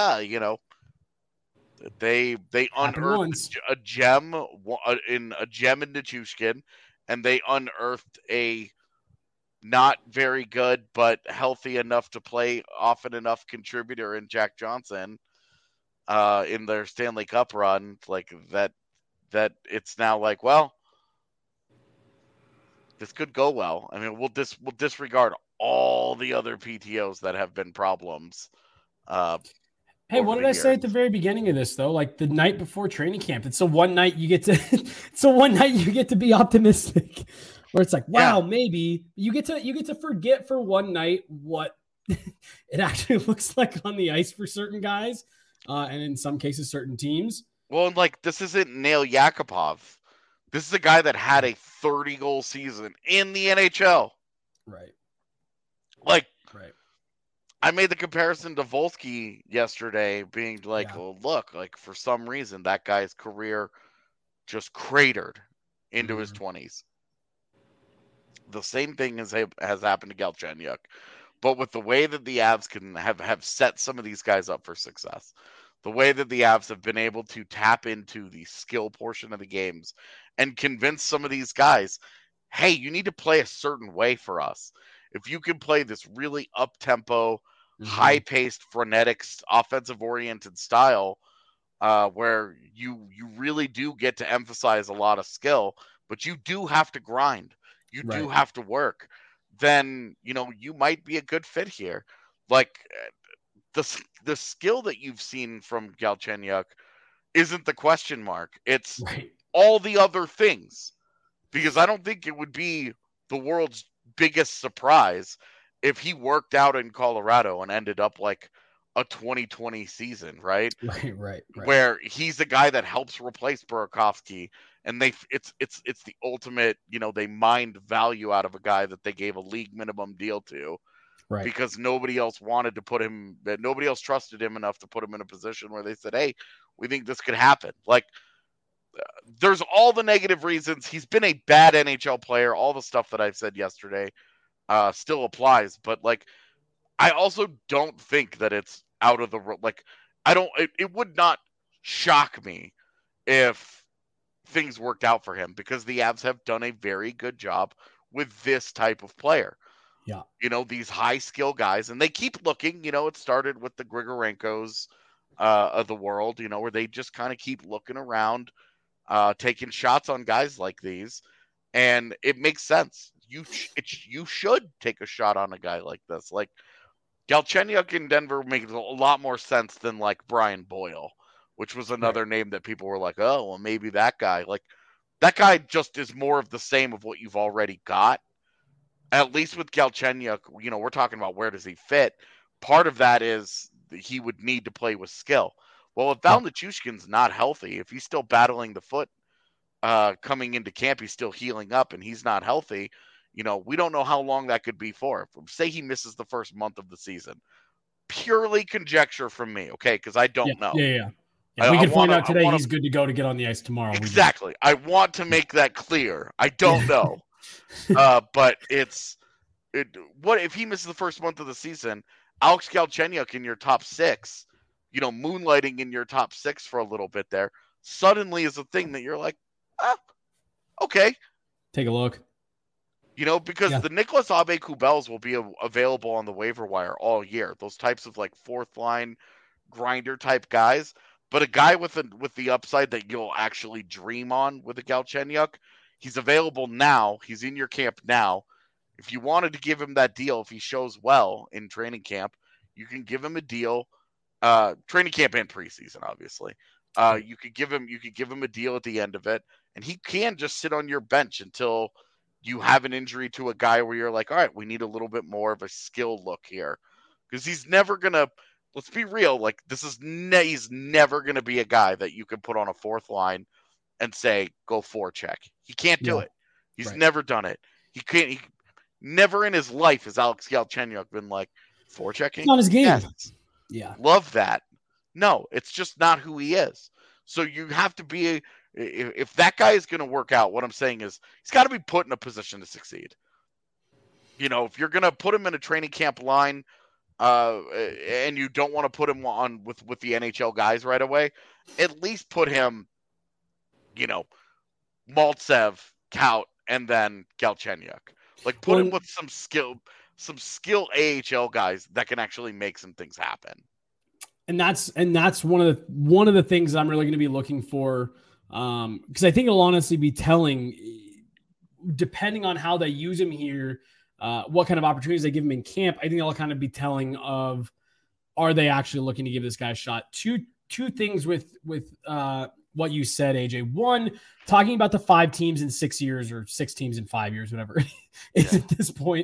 they unearthed a gem in Nichushkin, and they unearthed a not very good but healthy enough to play often enough contributor in Jack Johnson in their Stanley Cup run, like that it's now like, well, this could go well. I mean, we'll disregard all the other PTOs that have been problems. Hey, what did I say at the very beginning of this though? Like the night before training camp, it's the one night you get to be optimistic. Where it's like, wow, maybe you get to forget for one night what it actually looks like on the ice for certain guys, and in some cases, certain teams. Well, and like this isn't Nail Yakupov. This is a guy that had a 30-goal season in the NHL. Right. Like, right. I made the comparison to Volsky yesterday, being like, well, look, like for some reason that guy's career just cratered into his 20s. The same thing has happened to Galchenyuk, but with the way that the Avs can have set some of these guys up for success, the way that the Avs have been able to tap into the skill portion of the games and convince some of these guys, hey, you need to play a certain way for us. If you can play this really up-tempo, high-paced, frenetic, offensive-oriented style where you really do get to emphasize a lot of skill, but you do have to grind. You do have to work. Then, you might be a good fit here. Like, the skill that you've seen from Galchenyuk isn't the question mark. It's all the other things. Because I don't think it would be the world's biggest surprise if he worked out in Colorado and ended up like a 2020 season, right? Right. Where he's a guy that helps replace Burakovsky, and it's the ultimate, they mined value out of a guy that they gave a league minimum deal to, right? Because nobody else wanted to put him, that nobody else trusted him enough to put him in a position where they said, hey, we think this could happen. Like, there's all the negative reasons. He's been a bad NHL player. All the stuff that I've said yesterday still applies, but like, I also don't think that it's out of the, like, it would not shock me if things worked out for him, because the Avs have done a very good job with this type of player. Yeah. These high skill guys, and they keep looking, it started with the Grigorenkos of the world, where they just kind of keep looking around, taking shots on guys like these, and it makes sense. You should take a shot on a guy like this. Like, Galchenyuk in Denver makes a lot more sense than like Brian Boyle, which was another name that people were like, oh, well, maybe that guy. Like, That guy just is more of the same of what you've already got. At least with Galchenyuk, we're talking about where does he fit. Part of that is he would need to play with skill. Well, if Val Nichushkin's not healthy, if he's still battling the foot coming into camp, he's still healing up and he's not healthy, we don't know how long that could be for. Say he misses the first month of the season. Purely conjecture from me, okay? Because I don't know. Yeah. We can find out today he's good to go to get on the ice tomorrow. Exactly. I want to make that clear. I don't know. But what if he misses the first month of the season? Alex Galchenyuk in your top 6, moonlighting in your top 6 for a little bit there, suddenly is a thing that you're like, okay. Take a look. Because the Nicolas Aube-Kubels will be available on the waiver wire all year. Those types of like fourth line grinder type guys. But a guy with the upside that you'll actually dream on with a Galchenyuk, he's available now. He's in your camp now. If you wanted to give him that deal, if he shows well in training camp, you can give him a deal. Training camp and preseason, obviously. You could give him a deal at the end of it, and he can just sit on your bench until you have an injury to a guy where you're like, all right, we need a little bit more of a skill look here, because he's never gonna. Let's be real. Like he's never gonna be a guy that you can put on a fourth line and say go forecheck. He can't do it. He's never done it. He can't. He never in his life has Alex Galchenyuk been like forechecking. It's on his game. Yes. Yeah, love that. No, it's just not who he is. So you have to be. If that guy is going to work out, what I'm saying is he's got to be put in a position to succeed. If you're going to put him in a training camp line, and you don't want to put him on with the NHL guys right away, at least put him, Maltsev, Kaut, and then Galchenyuk. Like put him with some skill AHL guys that can actually make some things happen. And that's one of the things I'm really going to be looking for. Because I think it'll honestly be telling, depending on how they use him here, what kind of opportunities they give him in camp. I think it'll kind of be telling of, are they actually looking to give this guy a shot? Two things with what you said, AJ. One, talking about the 5 teams in 6 years or 6 teams in 5 years, whatever it is at this point.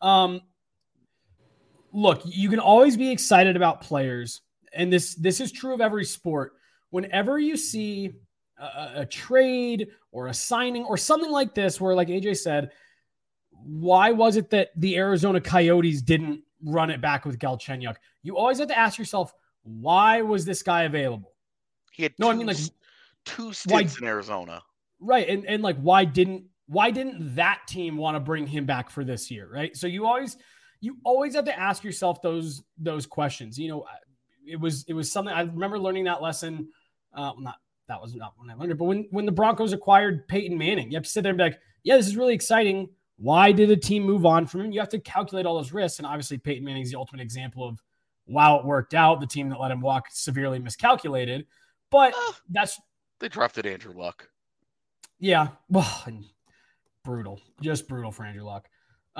Look, you can always be excited about players, and this is true of every sport. Whenever you see a trade or a signing or something like this, where like AJ said, why was it that the Arizona Coyotes didn't run it back with Galchenyuk? You always have to ask yourself, why was this guy available? He had two stints in Arizona. Right. And like, why didn't that team want to bring him back for this year? Right. So you always have to ask yourself those questions. It was something I remember learning that lesson. That was not when I learned it, but when the Broncos acquired Peyton Manning, you have to sit there and be like, yeah, this is really exciting. Why did a team move on from him? You have to calculate all those risks. And obviously Peyton Manning is the ultimate example of, wow, it worked out. The team that let him walk severely miscalculated, but they drafted Andrew Luck. Yeah. Well, and just brutal for Andrew Luck.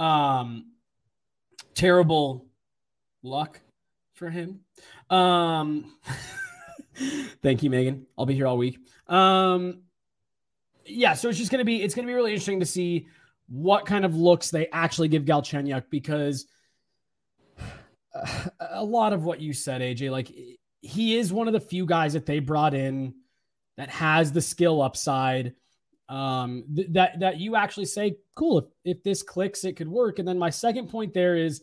Terrible luck for him. Thank you, Megan. I'll be here all week. So it's going to be really interesting to see what kind of looks they actually give Galchenyuk, because a lot of what you said, AJ, like he is one of the few guys that they brought in that has the skill upside, that you actually say, cool, if this clicks, it could work. And then my second point there is,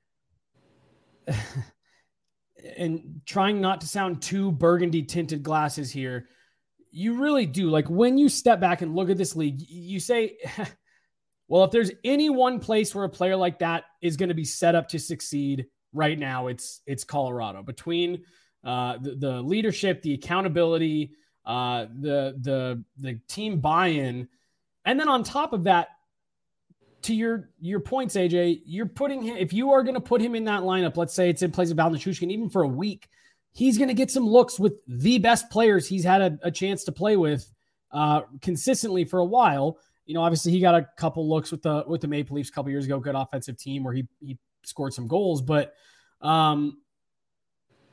and trying not to sound too burgundy tinted glasses here, you really do. Like when you step back and look at this league, you say, well, if there's any one place where a player like that is going to be set up to succeed right now, it's Colorado. Between the leadership, the accountability, the team buy-in, and then on top of that, to your points, AJ, you're putting him, if you are going to put him in that lineup, let's say it's in place of Val Nichushkin, even for a week, he's going to get some looks with the best players he's had a chance to play with consistently for a while. Obviously he got a couple looks with the Maple Leafs a couple years ago, good offensive team where he scored some goals, but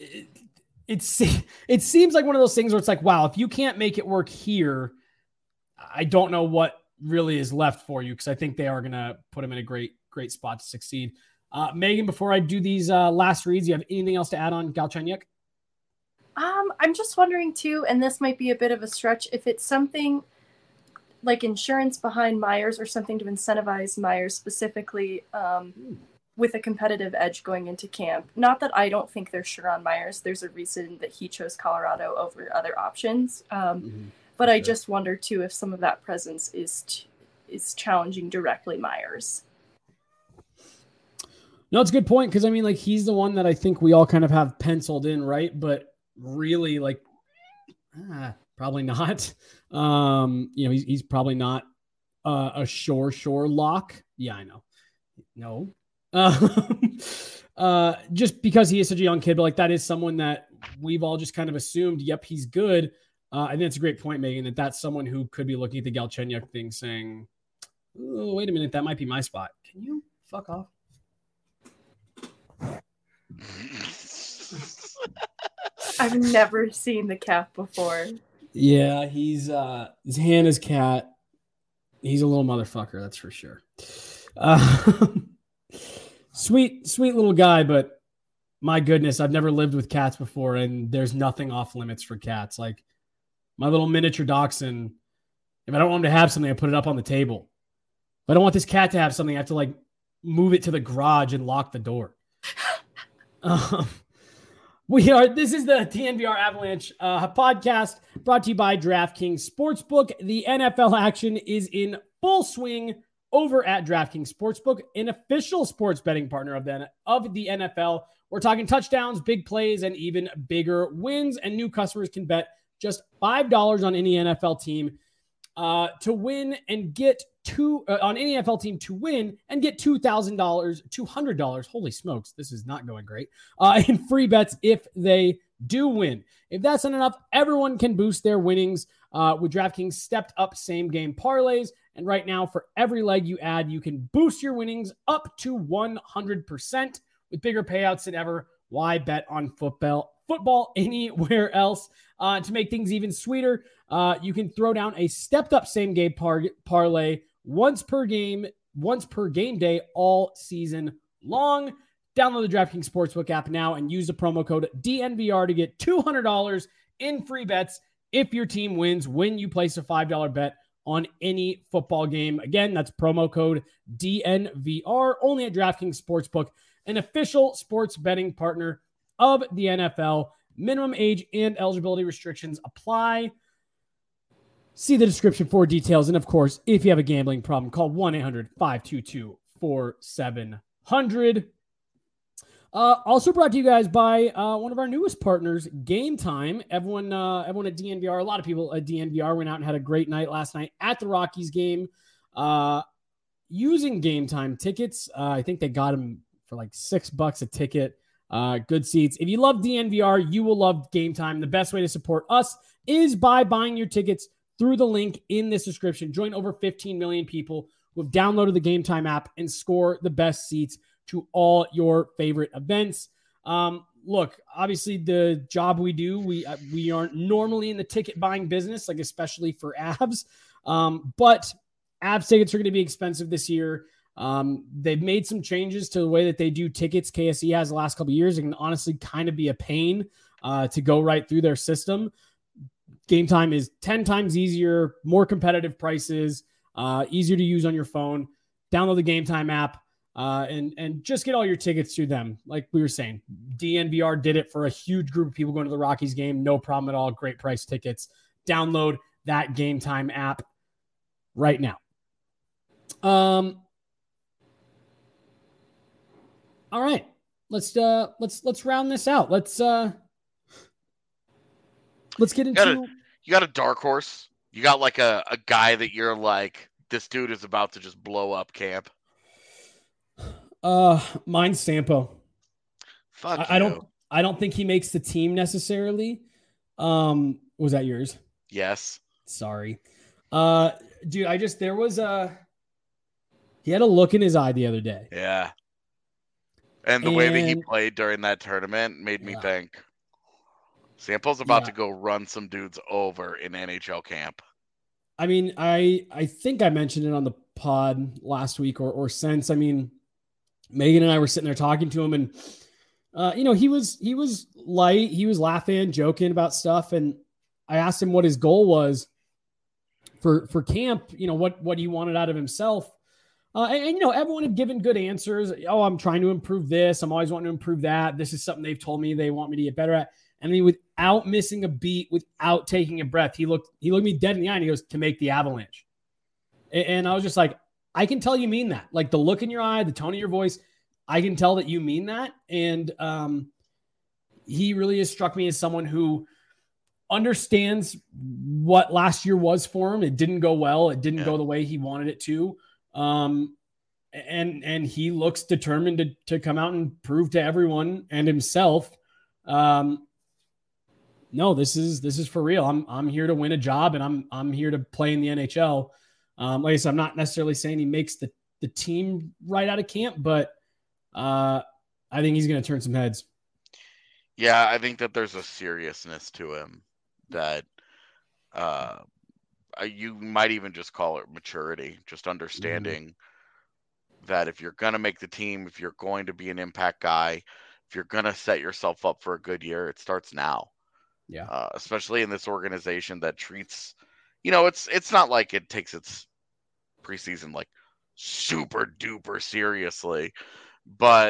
it seems like one of those things where it's like, wow, if you can't make it work here, I don't know what really is left for you because I think they are going to put him in a great spot to succeed. Megan, before I do these last reads, you have anything else to add on Galchenyuk? I'm just wondering too, and this might be a bit of a stretch, if it's something like insurance behind Myers or something to incentivize Myers specifically with a competitive edge going into camp. Not that I don't think they're sure on Myers. There's a reason that he chose Colorado over other options. But I just wonder too if some of that presence is challenging directly Myers. No, it's a good point because I mean, like he's the one that I think we all kind of have penciled in, right? But really, like, probably not. He's probably not a sure lock. Yeah, I know. No, just because he is such a young kid, but like that is someone that we've all just kind of assumed. Yep, he's good. I think it's a great point, Megan, that's someone who could be looking at the Galchenyuk thing, saying, "Oh, wait a minute, that might be my spot." Can you fuck off? I've never seen the cat before. Yeah, he's his hand is cat. He's a little motherfucker, that's for sure. Sweet little guy, but my goodness, I've never lived with cats before, and there's nothing off limits for cats. Like my little miniature dachshund, if I don't want him to have something, I put it up on the table. If I don't want this cat to have something, I have to like move it to the garage and lock the door. This is the DNVR Avalanche podcast brought to you by DraftKings Sportsbook. The NFL action is in full swing over at DraftKings Sportsbook, an official sports betting partner of the NFL. We're talking touchdowns, big plays, and even bigger wins. And new customers can bet just $5 on any NFL team to win and get on any NFL team to win and get $200. Holy smokes, this is not going great. In free bets if they do win. If that's not enough, everyone can boost their winnings with DraftKings stepped up same game parlays. And right now, for every leg you add, you can boost your winnings up to 100% with bigger payouts than ever. Why bet on football anywhere else? To make things even sweeter, you can throw down a stepped up same game parlay once per game day all season long. Download the DraftKings Sportsbook app now and use the promo code DNVR to get $200 in free bets if your team wins when you place a $5 bet on any football game. Again, that's promo code DNVR only at DraftKings Sportsbook, an official sports betting partner of the NFL. Minimum age and eligibility restrictions apply. See the description for details. And of course, if you have a gambling problem, call 1-800-522-4700. Also brought to you guys by one of our newest partners, Game Time. Everyone at DNVR, a lot of people at DNVR went out and had a great night last night at the Rockies game using Game Time tickets. I think they got them for like $6 a ticket. Good seats. If you love DNVR, you will love Game Time. The best way to support us is by buying your tickets through the link in this description. Join over 15 million people who have downloaded the Game Time app and score the best seats to all your favorite events. Look, obviously the job we do, we aren't normally in the ticket buying business, like especially for Avs. But Avs tickets are going to be expensive this year. They've made some changes to the way that they do tickets. KSE has the last couple of years. It can honestly kind of be a pain to go right through their system. Game Time is 10 times easier, more competitive prices, easier to use on your phone. Download the Game Time app and just get all your tickets through them. Like we were saying, DNVR did it for a huge group of people going to the Rockies game. No problem at all. Great price tickets. Download that Game Time app right now. All right, let's round this out. Let's get into. You got a dark horse. You got like a guy that you're like, this dude is about to just blow up camp. Mine's Sampo. Fuck I don't think he makes the team necessarily. Was that yours? Yes. Sorry. Dude, he had a look in his eye the other day. Yeah. And the way that he played during that tournament made me think Sampo's about to go run some dudes over in NHL camp. I mean, I think I mentioned it on the pod last week or since. I mean, Megan and I were sitting there talking to him, and he was light. He was laughing, joking about stuff, and I asked him what his goal was for camp. What he wanted out of himself. And everyone had given good answers. Oh, I'm trying to improve this. I'm always wanting to improve that. This is something they've told me they want me to get better at. And then without missing a beat, without taking a breath, he looked me dead in the eye and he goes, to make the Avalanche. And I was just like, I can tell you mean that. Like the look in your eye, the tone of your voice, I can tell that you mean that. And he really has struck me as someone who understands what last year was for him. It didn't go well. It didn't go the way he wanted it to. And he looks determined to come out and prove to everyone and himself, no, this is for real. I'm here to win a job, and I'm here to play in the NHL. Like I said, I'm not necessarily saying he makes the team right out of camp, but I think he's going to turn some heads. Yeah, I think that there's a seriousness to him that you might even just call it maturity, just understanding that if you're going to make the team, if you're going to be an impact guy, if you're going to set yourself up for a good year, it starts now. Yeah. Especially in this organization that treats, it's not like it takes its preseason like super duper seriously, but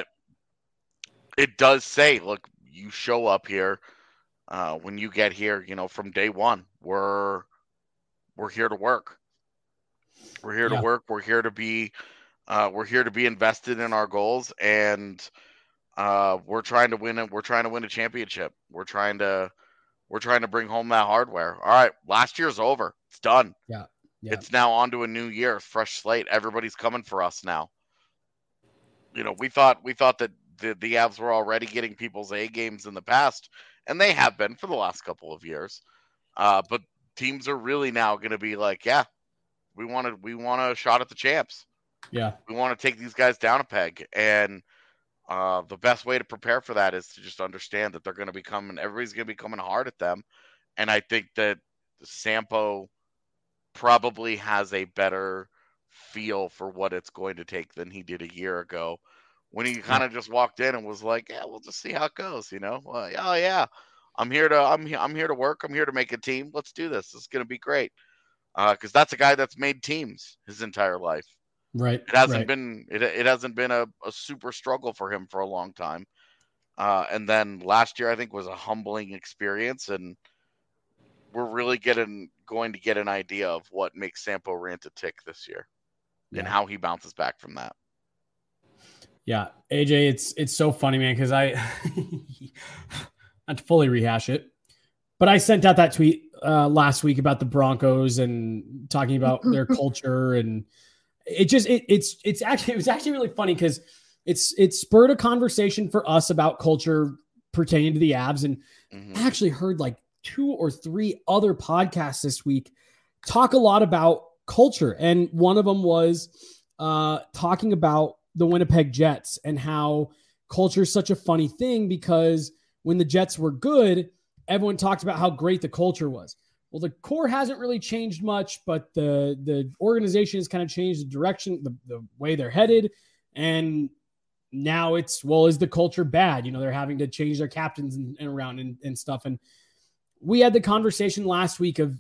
it does say, look, you show up here when you get here, from day one, we're here to work. We're here to work. We're here to be invested in our goals, and we're trying to win it. We're trying to win a championship. We're trying to bring home that hardware. All right, last year's over. It's done. Yeah. It's now on to a new year, fresh slate. Everybody's coming for us now. We thought that the Avs were already getting people's A games in the past, and they have been for the last couple of years. But teams are really now going to be like, yeah, we want a shot at the champs. Yeah. We want to take these guys down a peg. And the best way to prepare for that is to just understand that they're going to be coming, everybody's going to be coming hard at them. And I think that Sampo probably has a better feel for what it's going to take than he did a year ago, when he kind of just walked in and was like, yeah, we'll just see how it goes, Well, oh yeah, I'm here to work. I'm here to make a team. Let's do this. It's going to be great. Because that's a guy that's made teams his entire life. Right. It hasn't been a super struggle for him for a long time. And then last year, I think, was a humbling experience, and we're really going to get an idea of what makes Sampo Ranta tick this year and how he bounces back from that. Yeah, AJ, it's so funny, man, because I not to fully rehash it, but I sent out that tweet last week about the Broncos and talking about their culture, and it was actually really funny because it spurred a conversation for us about culture pertaining to the Avs, and I actually heard like 2 or 3 other podcasts this week talk a lot about culture, and one of them was talking about the Winnipeg Jets and how culture is such a funny thing, because when the Jets were good, everyone talked about how great the culture was. Well, the core hasn't really changed much, but the organization has kind of changed the direction, the way they're headed. And now it's, well, is the culture bad? They're having to change their captains and around and stuff. And we had the conversation last week of,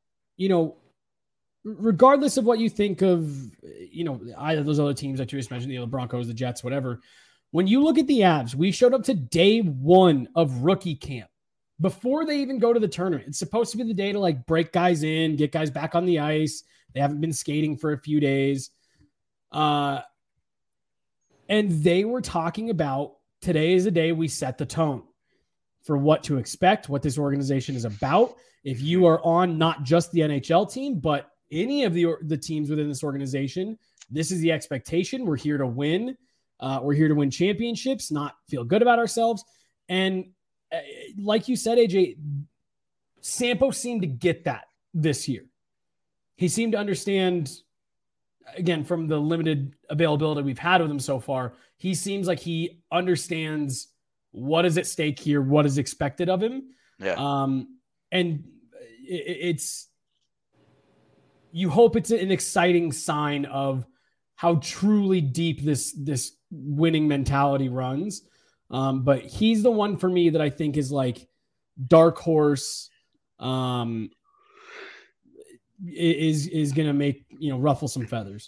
regardless of what you think of, either those other teams that you just mentioned, the Broncos, the Jets, whatever, when you look at the Avs, we showed up to day 1 of rookie camp before they even go to the tournament. It's supposed to be the day to like break guys in, get guys back on the ice. They haven't been skating for a few days. And they were talking about, today is the day we set the tone for what to expect, what this organization is about. If you are on not just the NHL team, but any of the teams within this organization, this is the expectation. We're here to win. We're here to win championships, not feel good about ourselves. And like you said, AJ, Sampo seemed to get that this year. He seemed to understand, again, from the limited availability we've had with him so far, he seems like he understands what is at stake here, what is expected of him. Yeah. And it's you hope it's an exciting sign of how truly deep this winning mentality runs. But he's the one for me that I think is like dark horse, is going to make, ruffle some feathers.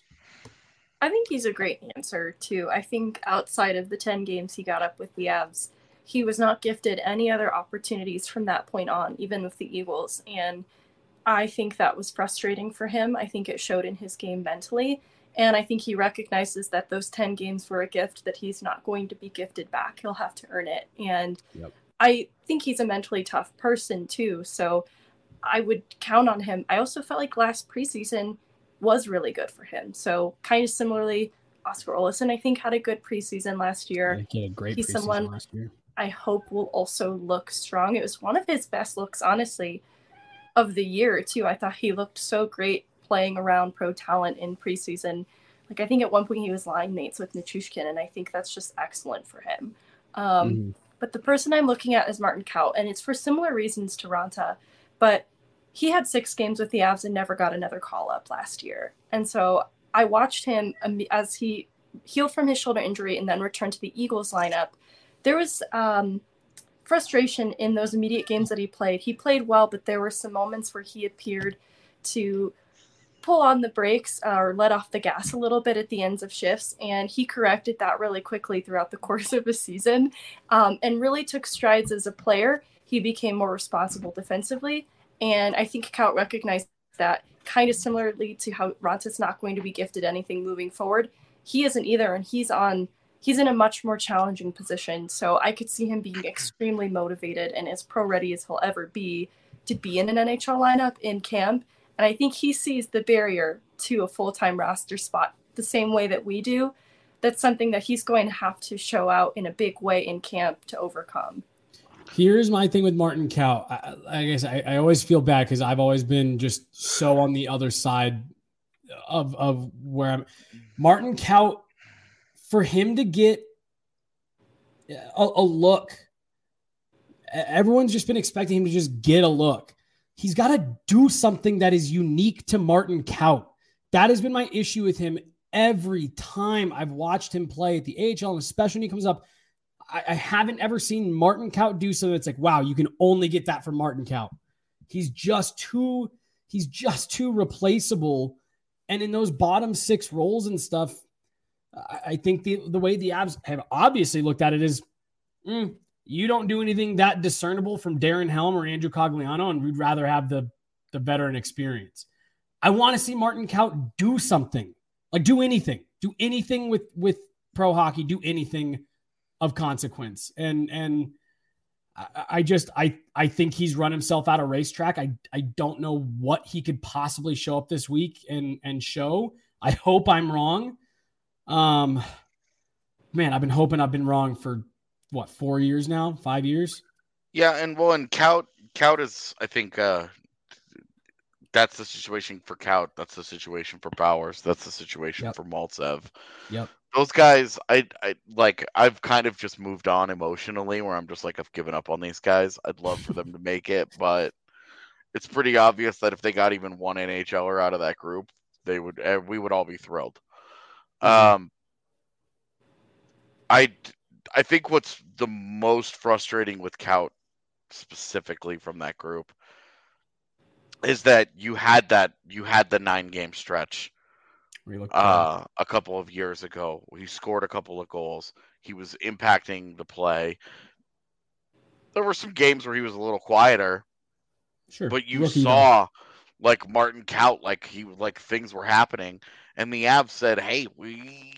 I think he's a great answer too. I think outside of the 10 games he got up with the Avs, he was not gifted any other opportunities from that point on, even with the Eagles. And I think that was frustrating for him. I think it showed in his game mentally. And I think he recognizes that those 10 games were a gift that he's not going to be gifted back. He'll have to earn it. And I think he's a mentally tough person too. So I would count on him. I also felt like last preseason was really good for him. So kind of similarly, Oscar Olesen, I think, had a good preseason last year. He had a great He's preseason someone last year. I hope will also look strong. It was one of his best looks, honestly, of the year too. I thought he looked so great playing around pro talent in preseason. Like, I think at one point he was line mates with Nichushkin, and I think that's just excellent for him. But the person I'm looking at is Martin Kaut, and it's for similar reasons to Ranta, but he had 6 games with the Avs and never got another call-up last year. And so I watched him as he healed from his shoulder injury and then returned to the Eagles lineup. There was frustration in those immediate games that he played. He played well, but there were some moments where he appeared to pull on the brakes or let off the gas a little bit at the ends of shifts, and he corrected that really quickly throughout the course of the season, and really took strides as a player. He became more responsible defensively, and I think Kaut recognized that, kind of similarly to how Ranta's not going to be gifted anything moving forward. He isn't either, and he's in a much more challenging position, so I could see him being extremely motivated and as pro-ready as he'll ever be to be in an NHL lineup in camp. And I think he sees the barrier to a full-time roster spot the same way that we do. That's something that he's going to have to show out in a big way in camp to overcome. Here's my thing with Martin Kaut. I guess I always feel bad because I've always been just so on the other side of where I'm. Martin Kaut, for him to get a look, everyone's just been expecting him to just get a look. He's got to do something that is unique to Martin Kaut. That has been my issue with him every time I've watched him play at the AHL, and especially when he comes up. I haven't ever seen Martin Kaut do something that's like, wow, you can only get that from Martin Kaut. He's just too replaceable. And in those bottom 6 roles and stuff, I think the way the Avs have obviously looked at it is, you don't do anything that discernible from Darren Helm or Andrew Cogliano, and we'd rather have the veteran experience. I want to see Martin Kaut do something, like do anything with pro hockey, do anything of consequence. And I think he's run himself out of racetrack. I don't know what he could possibly show up this week and show. I hope I'm wrong. Man, I've been hoping I've been wrong for 4 years now, 5 years. Yeah. And Kaut is, I think, that's the situation for Kaut. That's the situation for Bowers. That's the situation for Maltsev. Yep. Those guys, I've kind of just moved on emotionally, where I'm just like, I've given up on these guys. I'd love for them to make it, but it's pretty obvious that if they got even one NHLer out of that group, we would all be thrilled. I think what's the most frustrating with Kaut specifically from that group is that you had the 9-game stretch a couple of years ago. He scored a couple of goals. He was impacting the play. There were some games where he was a little quieter, sure, but you saw like Martin Kaut, like things were happening, and the Avs said, "Hey, we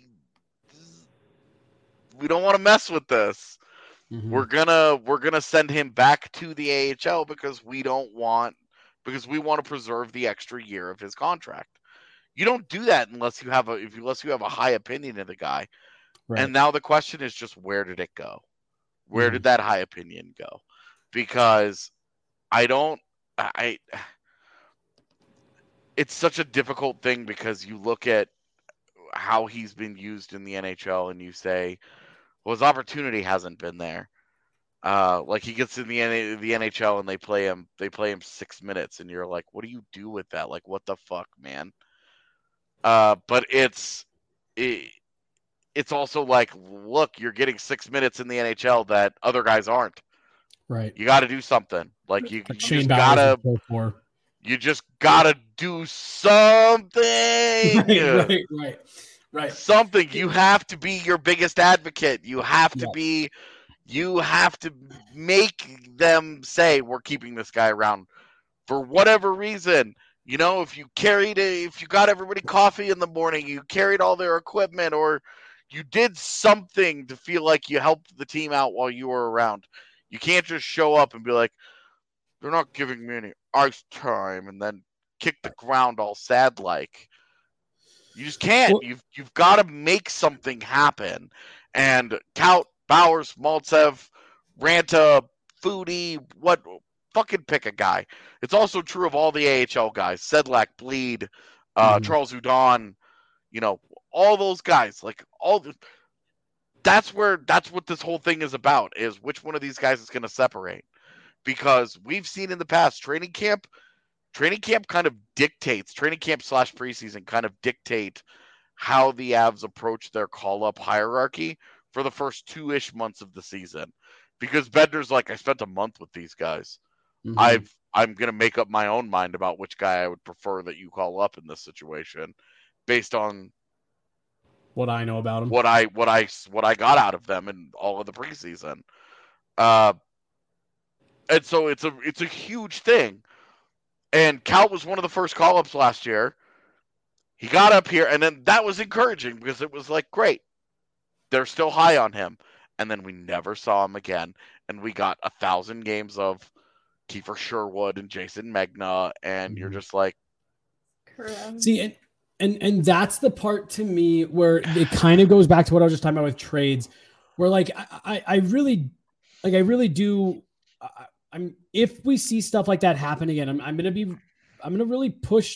don't want to mess with this. Mm-hmm. We're gonna send him back to the AHL because we want to preserve the extra year of his contract." You don't do that unless you have a high opinion of the guy. Right. And now the question is just, where did it go? Where did that high opinion go? Because it's such a difficult thing, because you look at how he's been used in the NHL and you say, well, his opportunity hasn't been there. Like he gets in the NHL and they play him 6 minutes, and you're like, what do you do with that? Like, what the fuck, man? But it's also like, look, you're getting 6 minutes in the NHL that other guys aren't. Right. You got to do something. Like you Shane just Bowers gotta. is so poor. You just gotta do something. Right. Something. You have to be your biggest advocate. You have to be. You have to make them say, we're keeping this guy around for whatever reason. You know, if you got everybody coffee in the morning, you carried all their equipment, or you did something to feel like you helped the team out while you were around. You can't just show up and be like, they're not giving me any ice time, and then kick the ground all sad like. You just can't. Well, you've got to make something happen. And Kaut, Bowers, Maltsev, Ranta, Foodie, what? Fucking pick a guy. It's also true of all the AHL guys. Sedlak, Bleed, Charles Hudon, all those guys. Like that's what this whole thing is about, is which one of these guys is going to separate. Because we've seen in the past, training camp kind of dictates, training camp / preseason kind of dictate how the Avs approach their call-up hierarchy for the first 2-ish months of the season. Because Bednar's like, I spent a month with these guys. I'm going to make up my own mind about which guy I would prefer that you call up in this situation based on what I know about them. What I got out of them in all of the preseason. And so it's a huge thing. And Cal was one of the first call-ups last year. He got up here, and then that was encouraging because it was like, great. They're still high on him. And then we never saw him again. And we got 1,000 games of Kiefer Sherwood and Jason Megna, and you're just like... Correct. See, and that's the part to me where it kind of goes back to what I was just talking about with trades, where like I really do... if we see stuff like that happen again, I'm going to really push,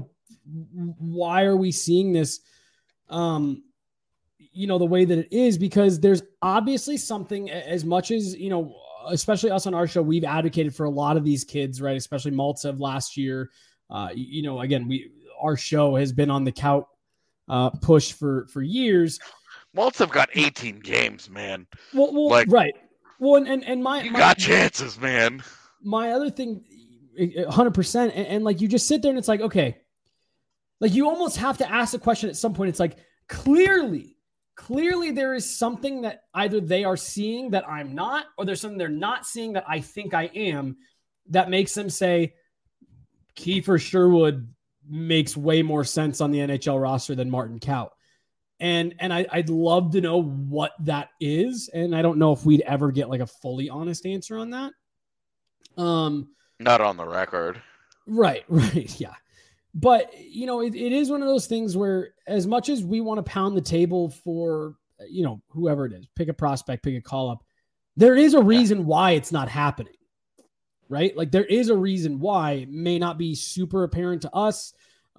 why are we seeing this, the way that it is, because there's obviously something, as much as, especially us on our show, we've advocated for a lot of these kids, right? Especially Maltsev last year. Again, our show has been on the Kaut push for years. Maltsev got 18 games, man. Well, right. Well, and my got chances, man. My other thing, 100%, and like you just sit there and it's like, okay, like you almost have to ask the question at some point. It's like clearly there is something that either they are seeing that I'm not, or there's something they're not seeing that I think I am, that makes them say Kiefer Sherwood makes way more sense on the NHL roster than Martin Kaut. And I'd love to know what that is. And I don't know if we'd ever get like a fully honest answer on that. Not on the record. Right. Yeah. But, it is one of those things where as much as we want to pound the table for, whoever it is, pick a prospect, pick a call up, there is a reason why it's not happening, right? Like there is a reason why. It may not be super apparent to us.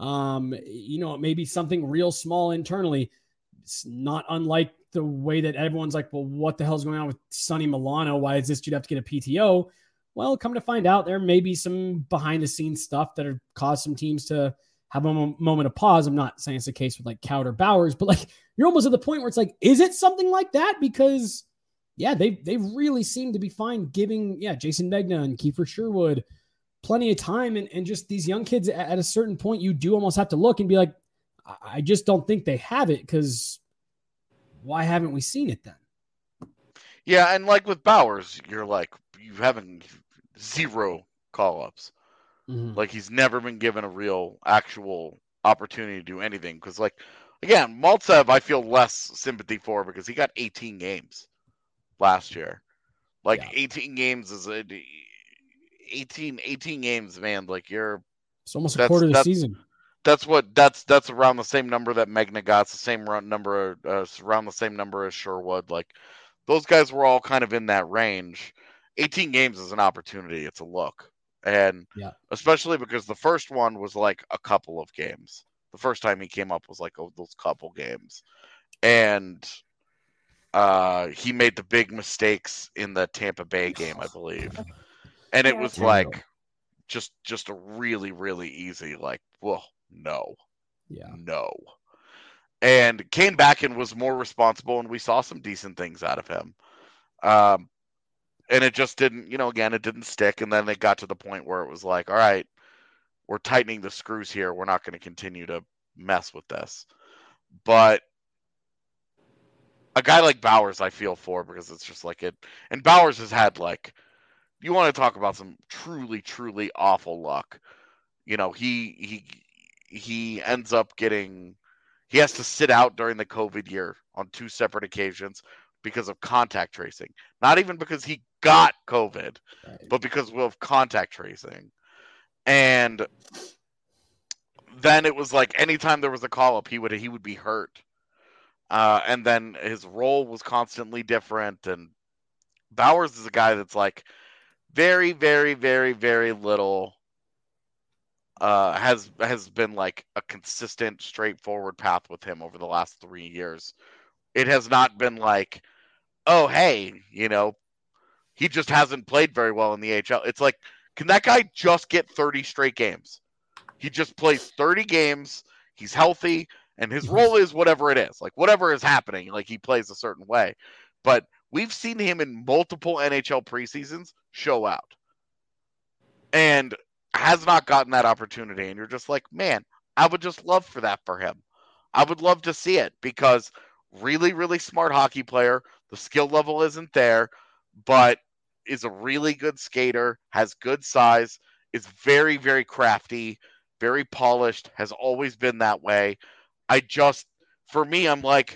It may be something real small internally. It's not unlike the way that everyone's like, well, what the hell's going on with Sonny Milano? Why is this dude have to get a PTO? Well, come to find out, there may be some behind the scenes stuff that have caused some teams to have a moment of pause. I'm not saying it's the case with like Kaut or Bowers, but like you're almost at the point where it's like, is it something like that? Because they really seem to be fine giving Jason Megna and Kiefer Sherwood plenty of time, and just these young kids at a certain point, you do almost have to look and be like, I just don't think they have it, because why haven't we seen it then? Yeah, and like with Bowers, you're like, you haven't 0 call-ups. Mm-hmm. Like he's never been given a real, actual opportunity to do anything. Because like, again, Maltsev, I feel less sympathy for because he got 18 games last year. Like 18 games is 18 games, man. Like it's almost a quarter of the season. That's around the same number that Megna got. It's the same number, around the same number as Sherwood. Like those guys were all kind of in that range. 18 games is an opportunity. It's a look. And especially because the first one was like a couple of games. The first time he came up was like those couple games. And he made the big mistakes in the Tampa Bay game, I believe. And it Yeah, was terrible. like just a really, really easy, like, well, no. And came back and was more responsible, and we saw some decent things out of him. And it just didn't, again, it didn't stick. And then it got to the point where it was like, all right, we're tightening the screws here. We're not going to continue to mess with this. But a guy like Bowers, I feel for, because it's just like it. And Bowers has had, like, you want to talk about some truly, truly awful luck. He ends up getting, he has to sit out during the COVID year on 2 separate occasions because of contact tracing. Not even because he got COVID, but because of contact tracing. And then it was like anytime there was a call up, he would be hurt. And then his role was constantly different. And Bowers is a guy that's like very, very, very, very little has been like a consistent, straightforward path with him over the last 3 years. It has not been like, oh, hey, he just hasn't played very well in the AHL. It's like, can that guy just get 30 straight games? He just plays 30 games. He's healthy, and his role is whatever it is. Like, whatever is happening, like, he plays a certain way. But we've seen him in multiple NHL preseasons show out. And has not gotten that opportunity. And you're just like, man, I would just love for that for him. I would love to see it, because really, really smart hockey player. The skill level isn't there, but is a really good skater, has good size, is very, very crafty, very polished, has always been that way. For me, I'm like,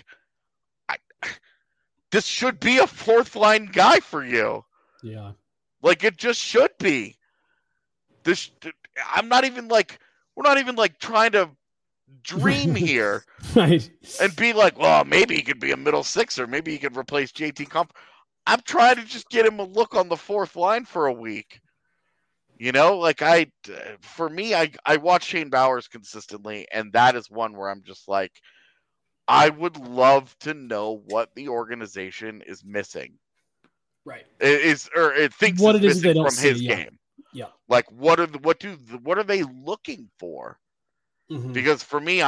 this should be a 4th line guy for you. Yeah. Like, it just should be. I'm not even like, we're not even like trying to dream here. Right. And be like, well, maybe he could be a middle sixer. Maybe he could replace JT Compher. I'm trying to just get him a look on the 4th line for a week. Like for me, I watch Shane Bowers consistently, and that is one where I'm just like, I would love to know what the organization is missing. Right. It thinks what is it is missing they don't from his see, game. Yeah. Like, what are they looking for? Mm-hmm. Because for me,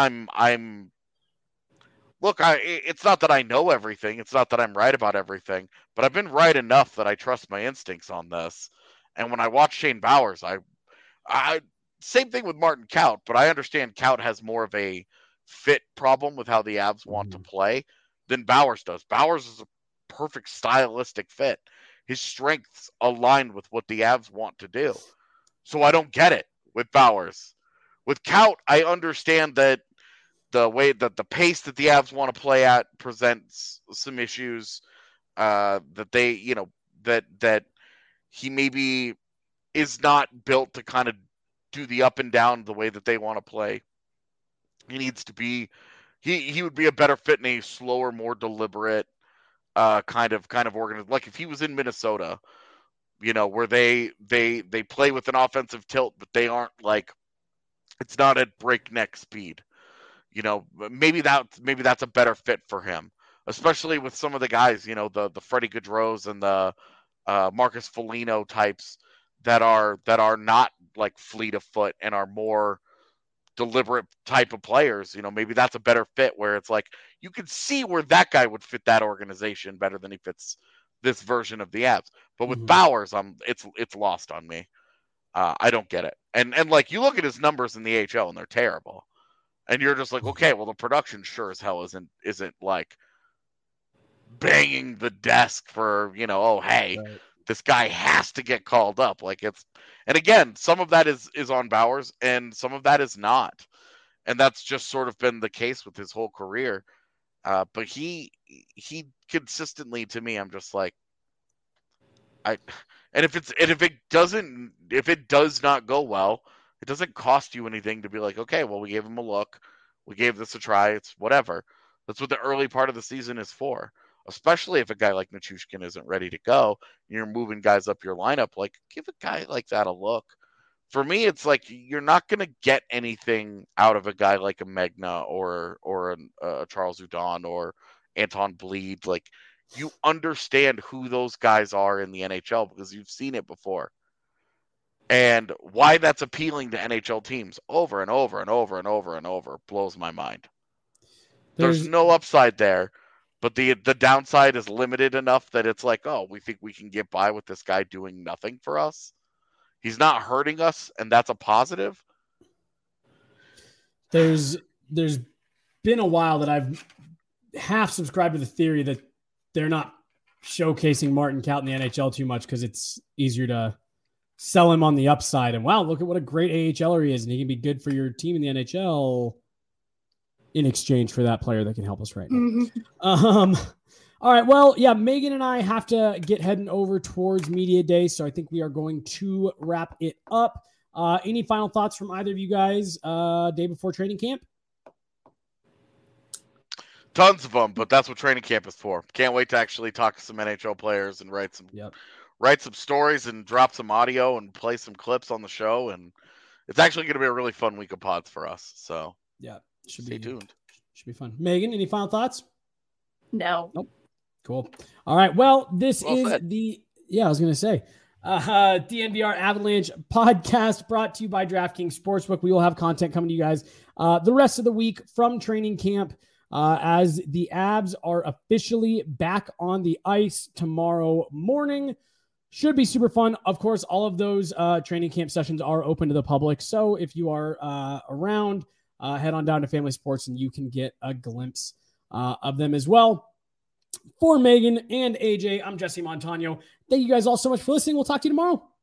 it's not that I know everything. It's not that I'm right about everything, but I've been right enough that I trust my instincts on this. And when I watch Shane Bowers, I same thing with Martin Kaut, but I understand Kaut has more of a fit problem with how the Avs want to play than Bowers does. Bowers is a perfect stylistic fit. His strengths align with what the Avs want to do. So I don't get it with Bowers. With Kaut, I understand that the way that the pace that the Avs want to play at presents some issues. That they, that he maybe is not built to kind of do the up and down the way that they want to play. He needs to be. He would be a better fit in a slower, more deliberate kind of organized. Like if he was in Minnesota, where they play with an offensive tilt, but they aren't like, it's not at breakneck speed. Maybe that's a better fit for him, especially with some of the guys, the Freddie Gaudreaus and the Marcus Foligno types that are not like fleet of foot and are more deliberate type of players. Maybe that's a better fit where it's like you can see where that guy would fit that organization better than he fits this version of the Avs. But with Bowers, it's lost on me. I don't get it. And like you look at his numbers in the AHL and they're terrible. And you're just like, okay, well the production sure as hell isn't like banging the desk for, oh hey, right, this guy has to get called up. Like and again, some of that is on Bowers and some of that is not. And that's just sort of been the case with his whole career. But he consistently, to me, I'm just like, if it does not go well, it doesn't cost you anything to be like, okay, well, we gave him a look. We gave this a try. It's whatever. That's what the early part of the season is for, especially if a guy like Nichushkin isn't ready to go. And you're moving guys up your lineup. Like, give a guy like that a look. For me, it's like you're not going to get anything out of a guy like a Megna or a Charles Hudon or Anton Bleed. Like, you understand who those guys are in the NHL because you've seen it before. And why that's appealing to NHL teams over and over and over and over and over blows my mind. There's no upside there, but the downside is limited enough that it's like, oh, we think we can get by with this guy doing nothing for us. He's not hurting us, and that's a positive. There's been a while that I've half subscribed to the theory that they're not showcasing Martin Kaut in the NHL too much because it's easier to sell him on the upside. And wow, look at what a great AHLer he is, and he can be good for your team in the NHL in exchange for that player that can help us right now. All right, well, yeah, Megan and I have to get heading over towards Media Day, so I think we are going to wrap it up. Any final thoughts from either of you guys day before training camp? Tons of them, but that's what training camp is for. Can't wait to actually talk to some NHL players and write some stories and drop some audio and play some clips on the show. And it's actually going to be a really fun week of pods for us. So yeah, stay tuned. Should be fun. Megan, any final thoughts? No. Nope. Cool. All right. Well, this Well is said. I was going to say, DNVR Avalanche podcast brought to you by DraftKings Sportsbook. We will have content coming to you guys the rest of the week from training camp as the Avs are officially back on the ice tomorrow morning. Should be super fun. Of course, all of those training camp sessions are open to the public. So if you are around, head on down to Family Sports and you can get a glimpse of them as well. For Megan and AJ, I'm Jesse Montano. Thank you guys all so much for listening. We'll talk to you tomorrow.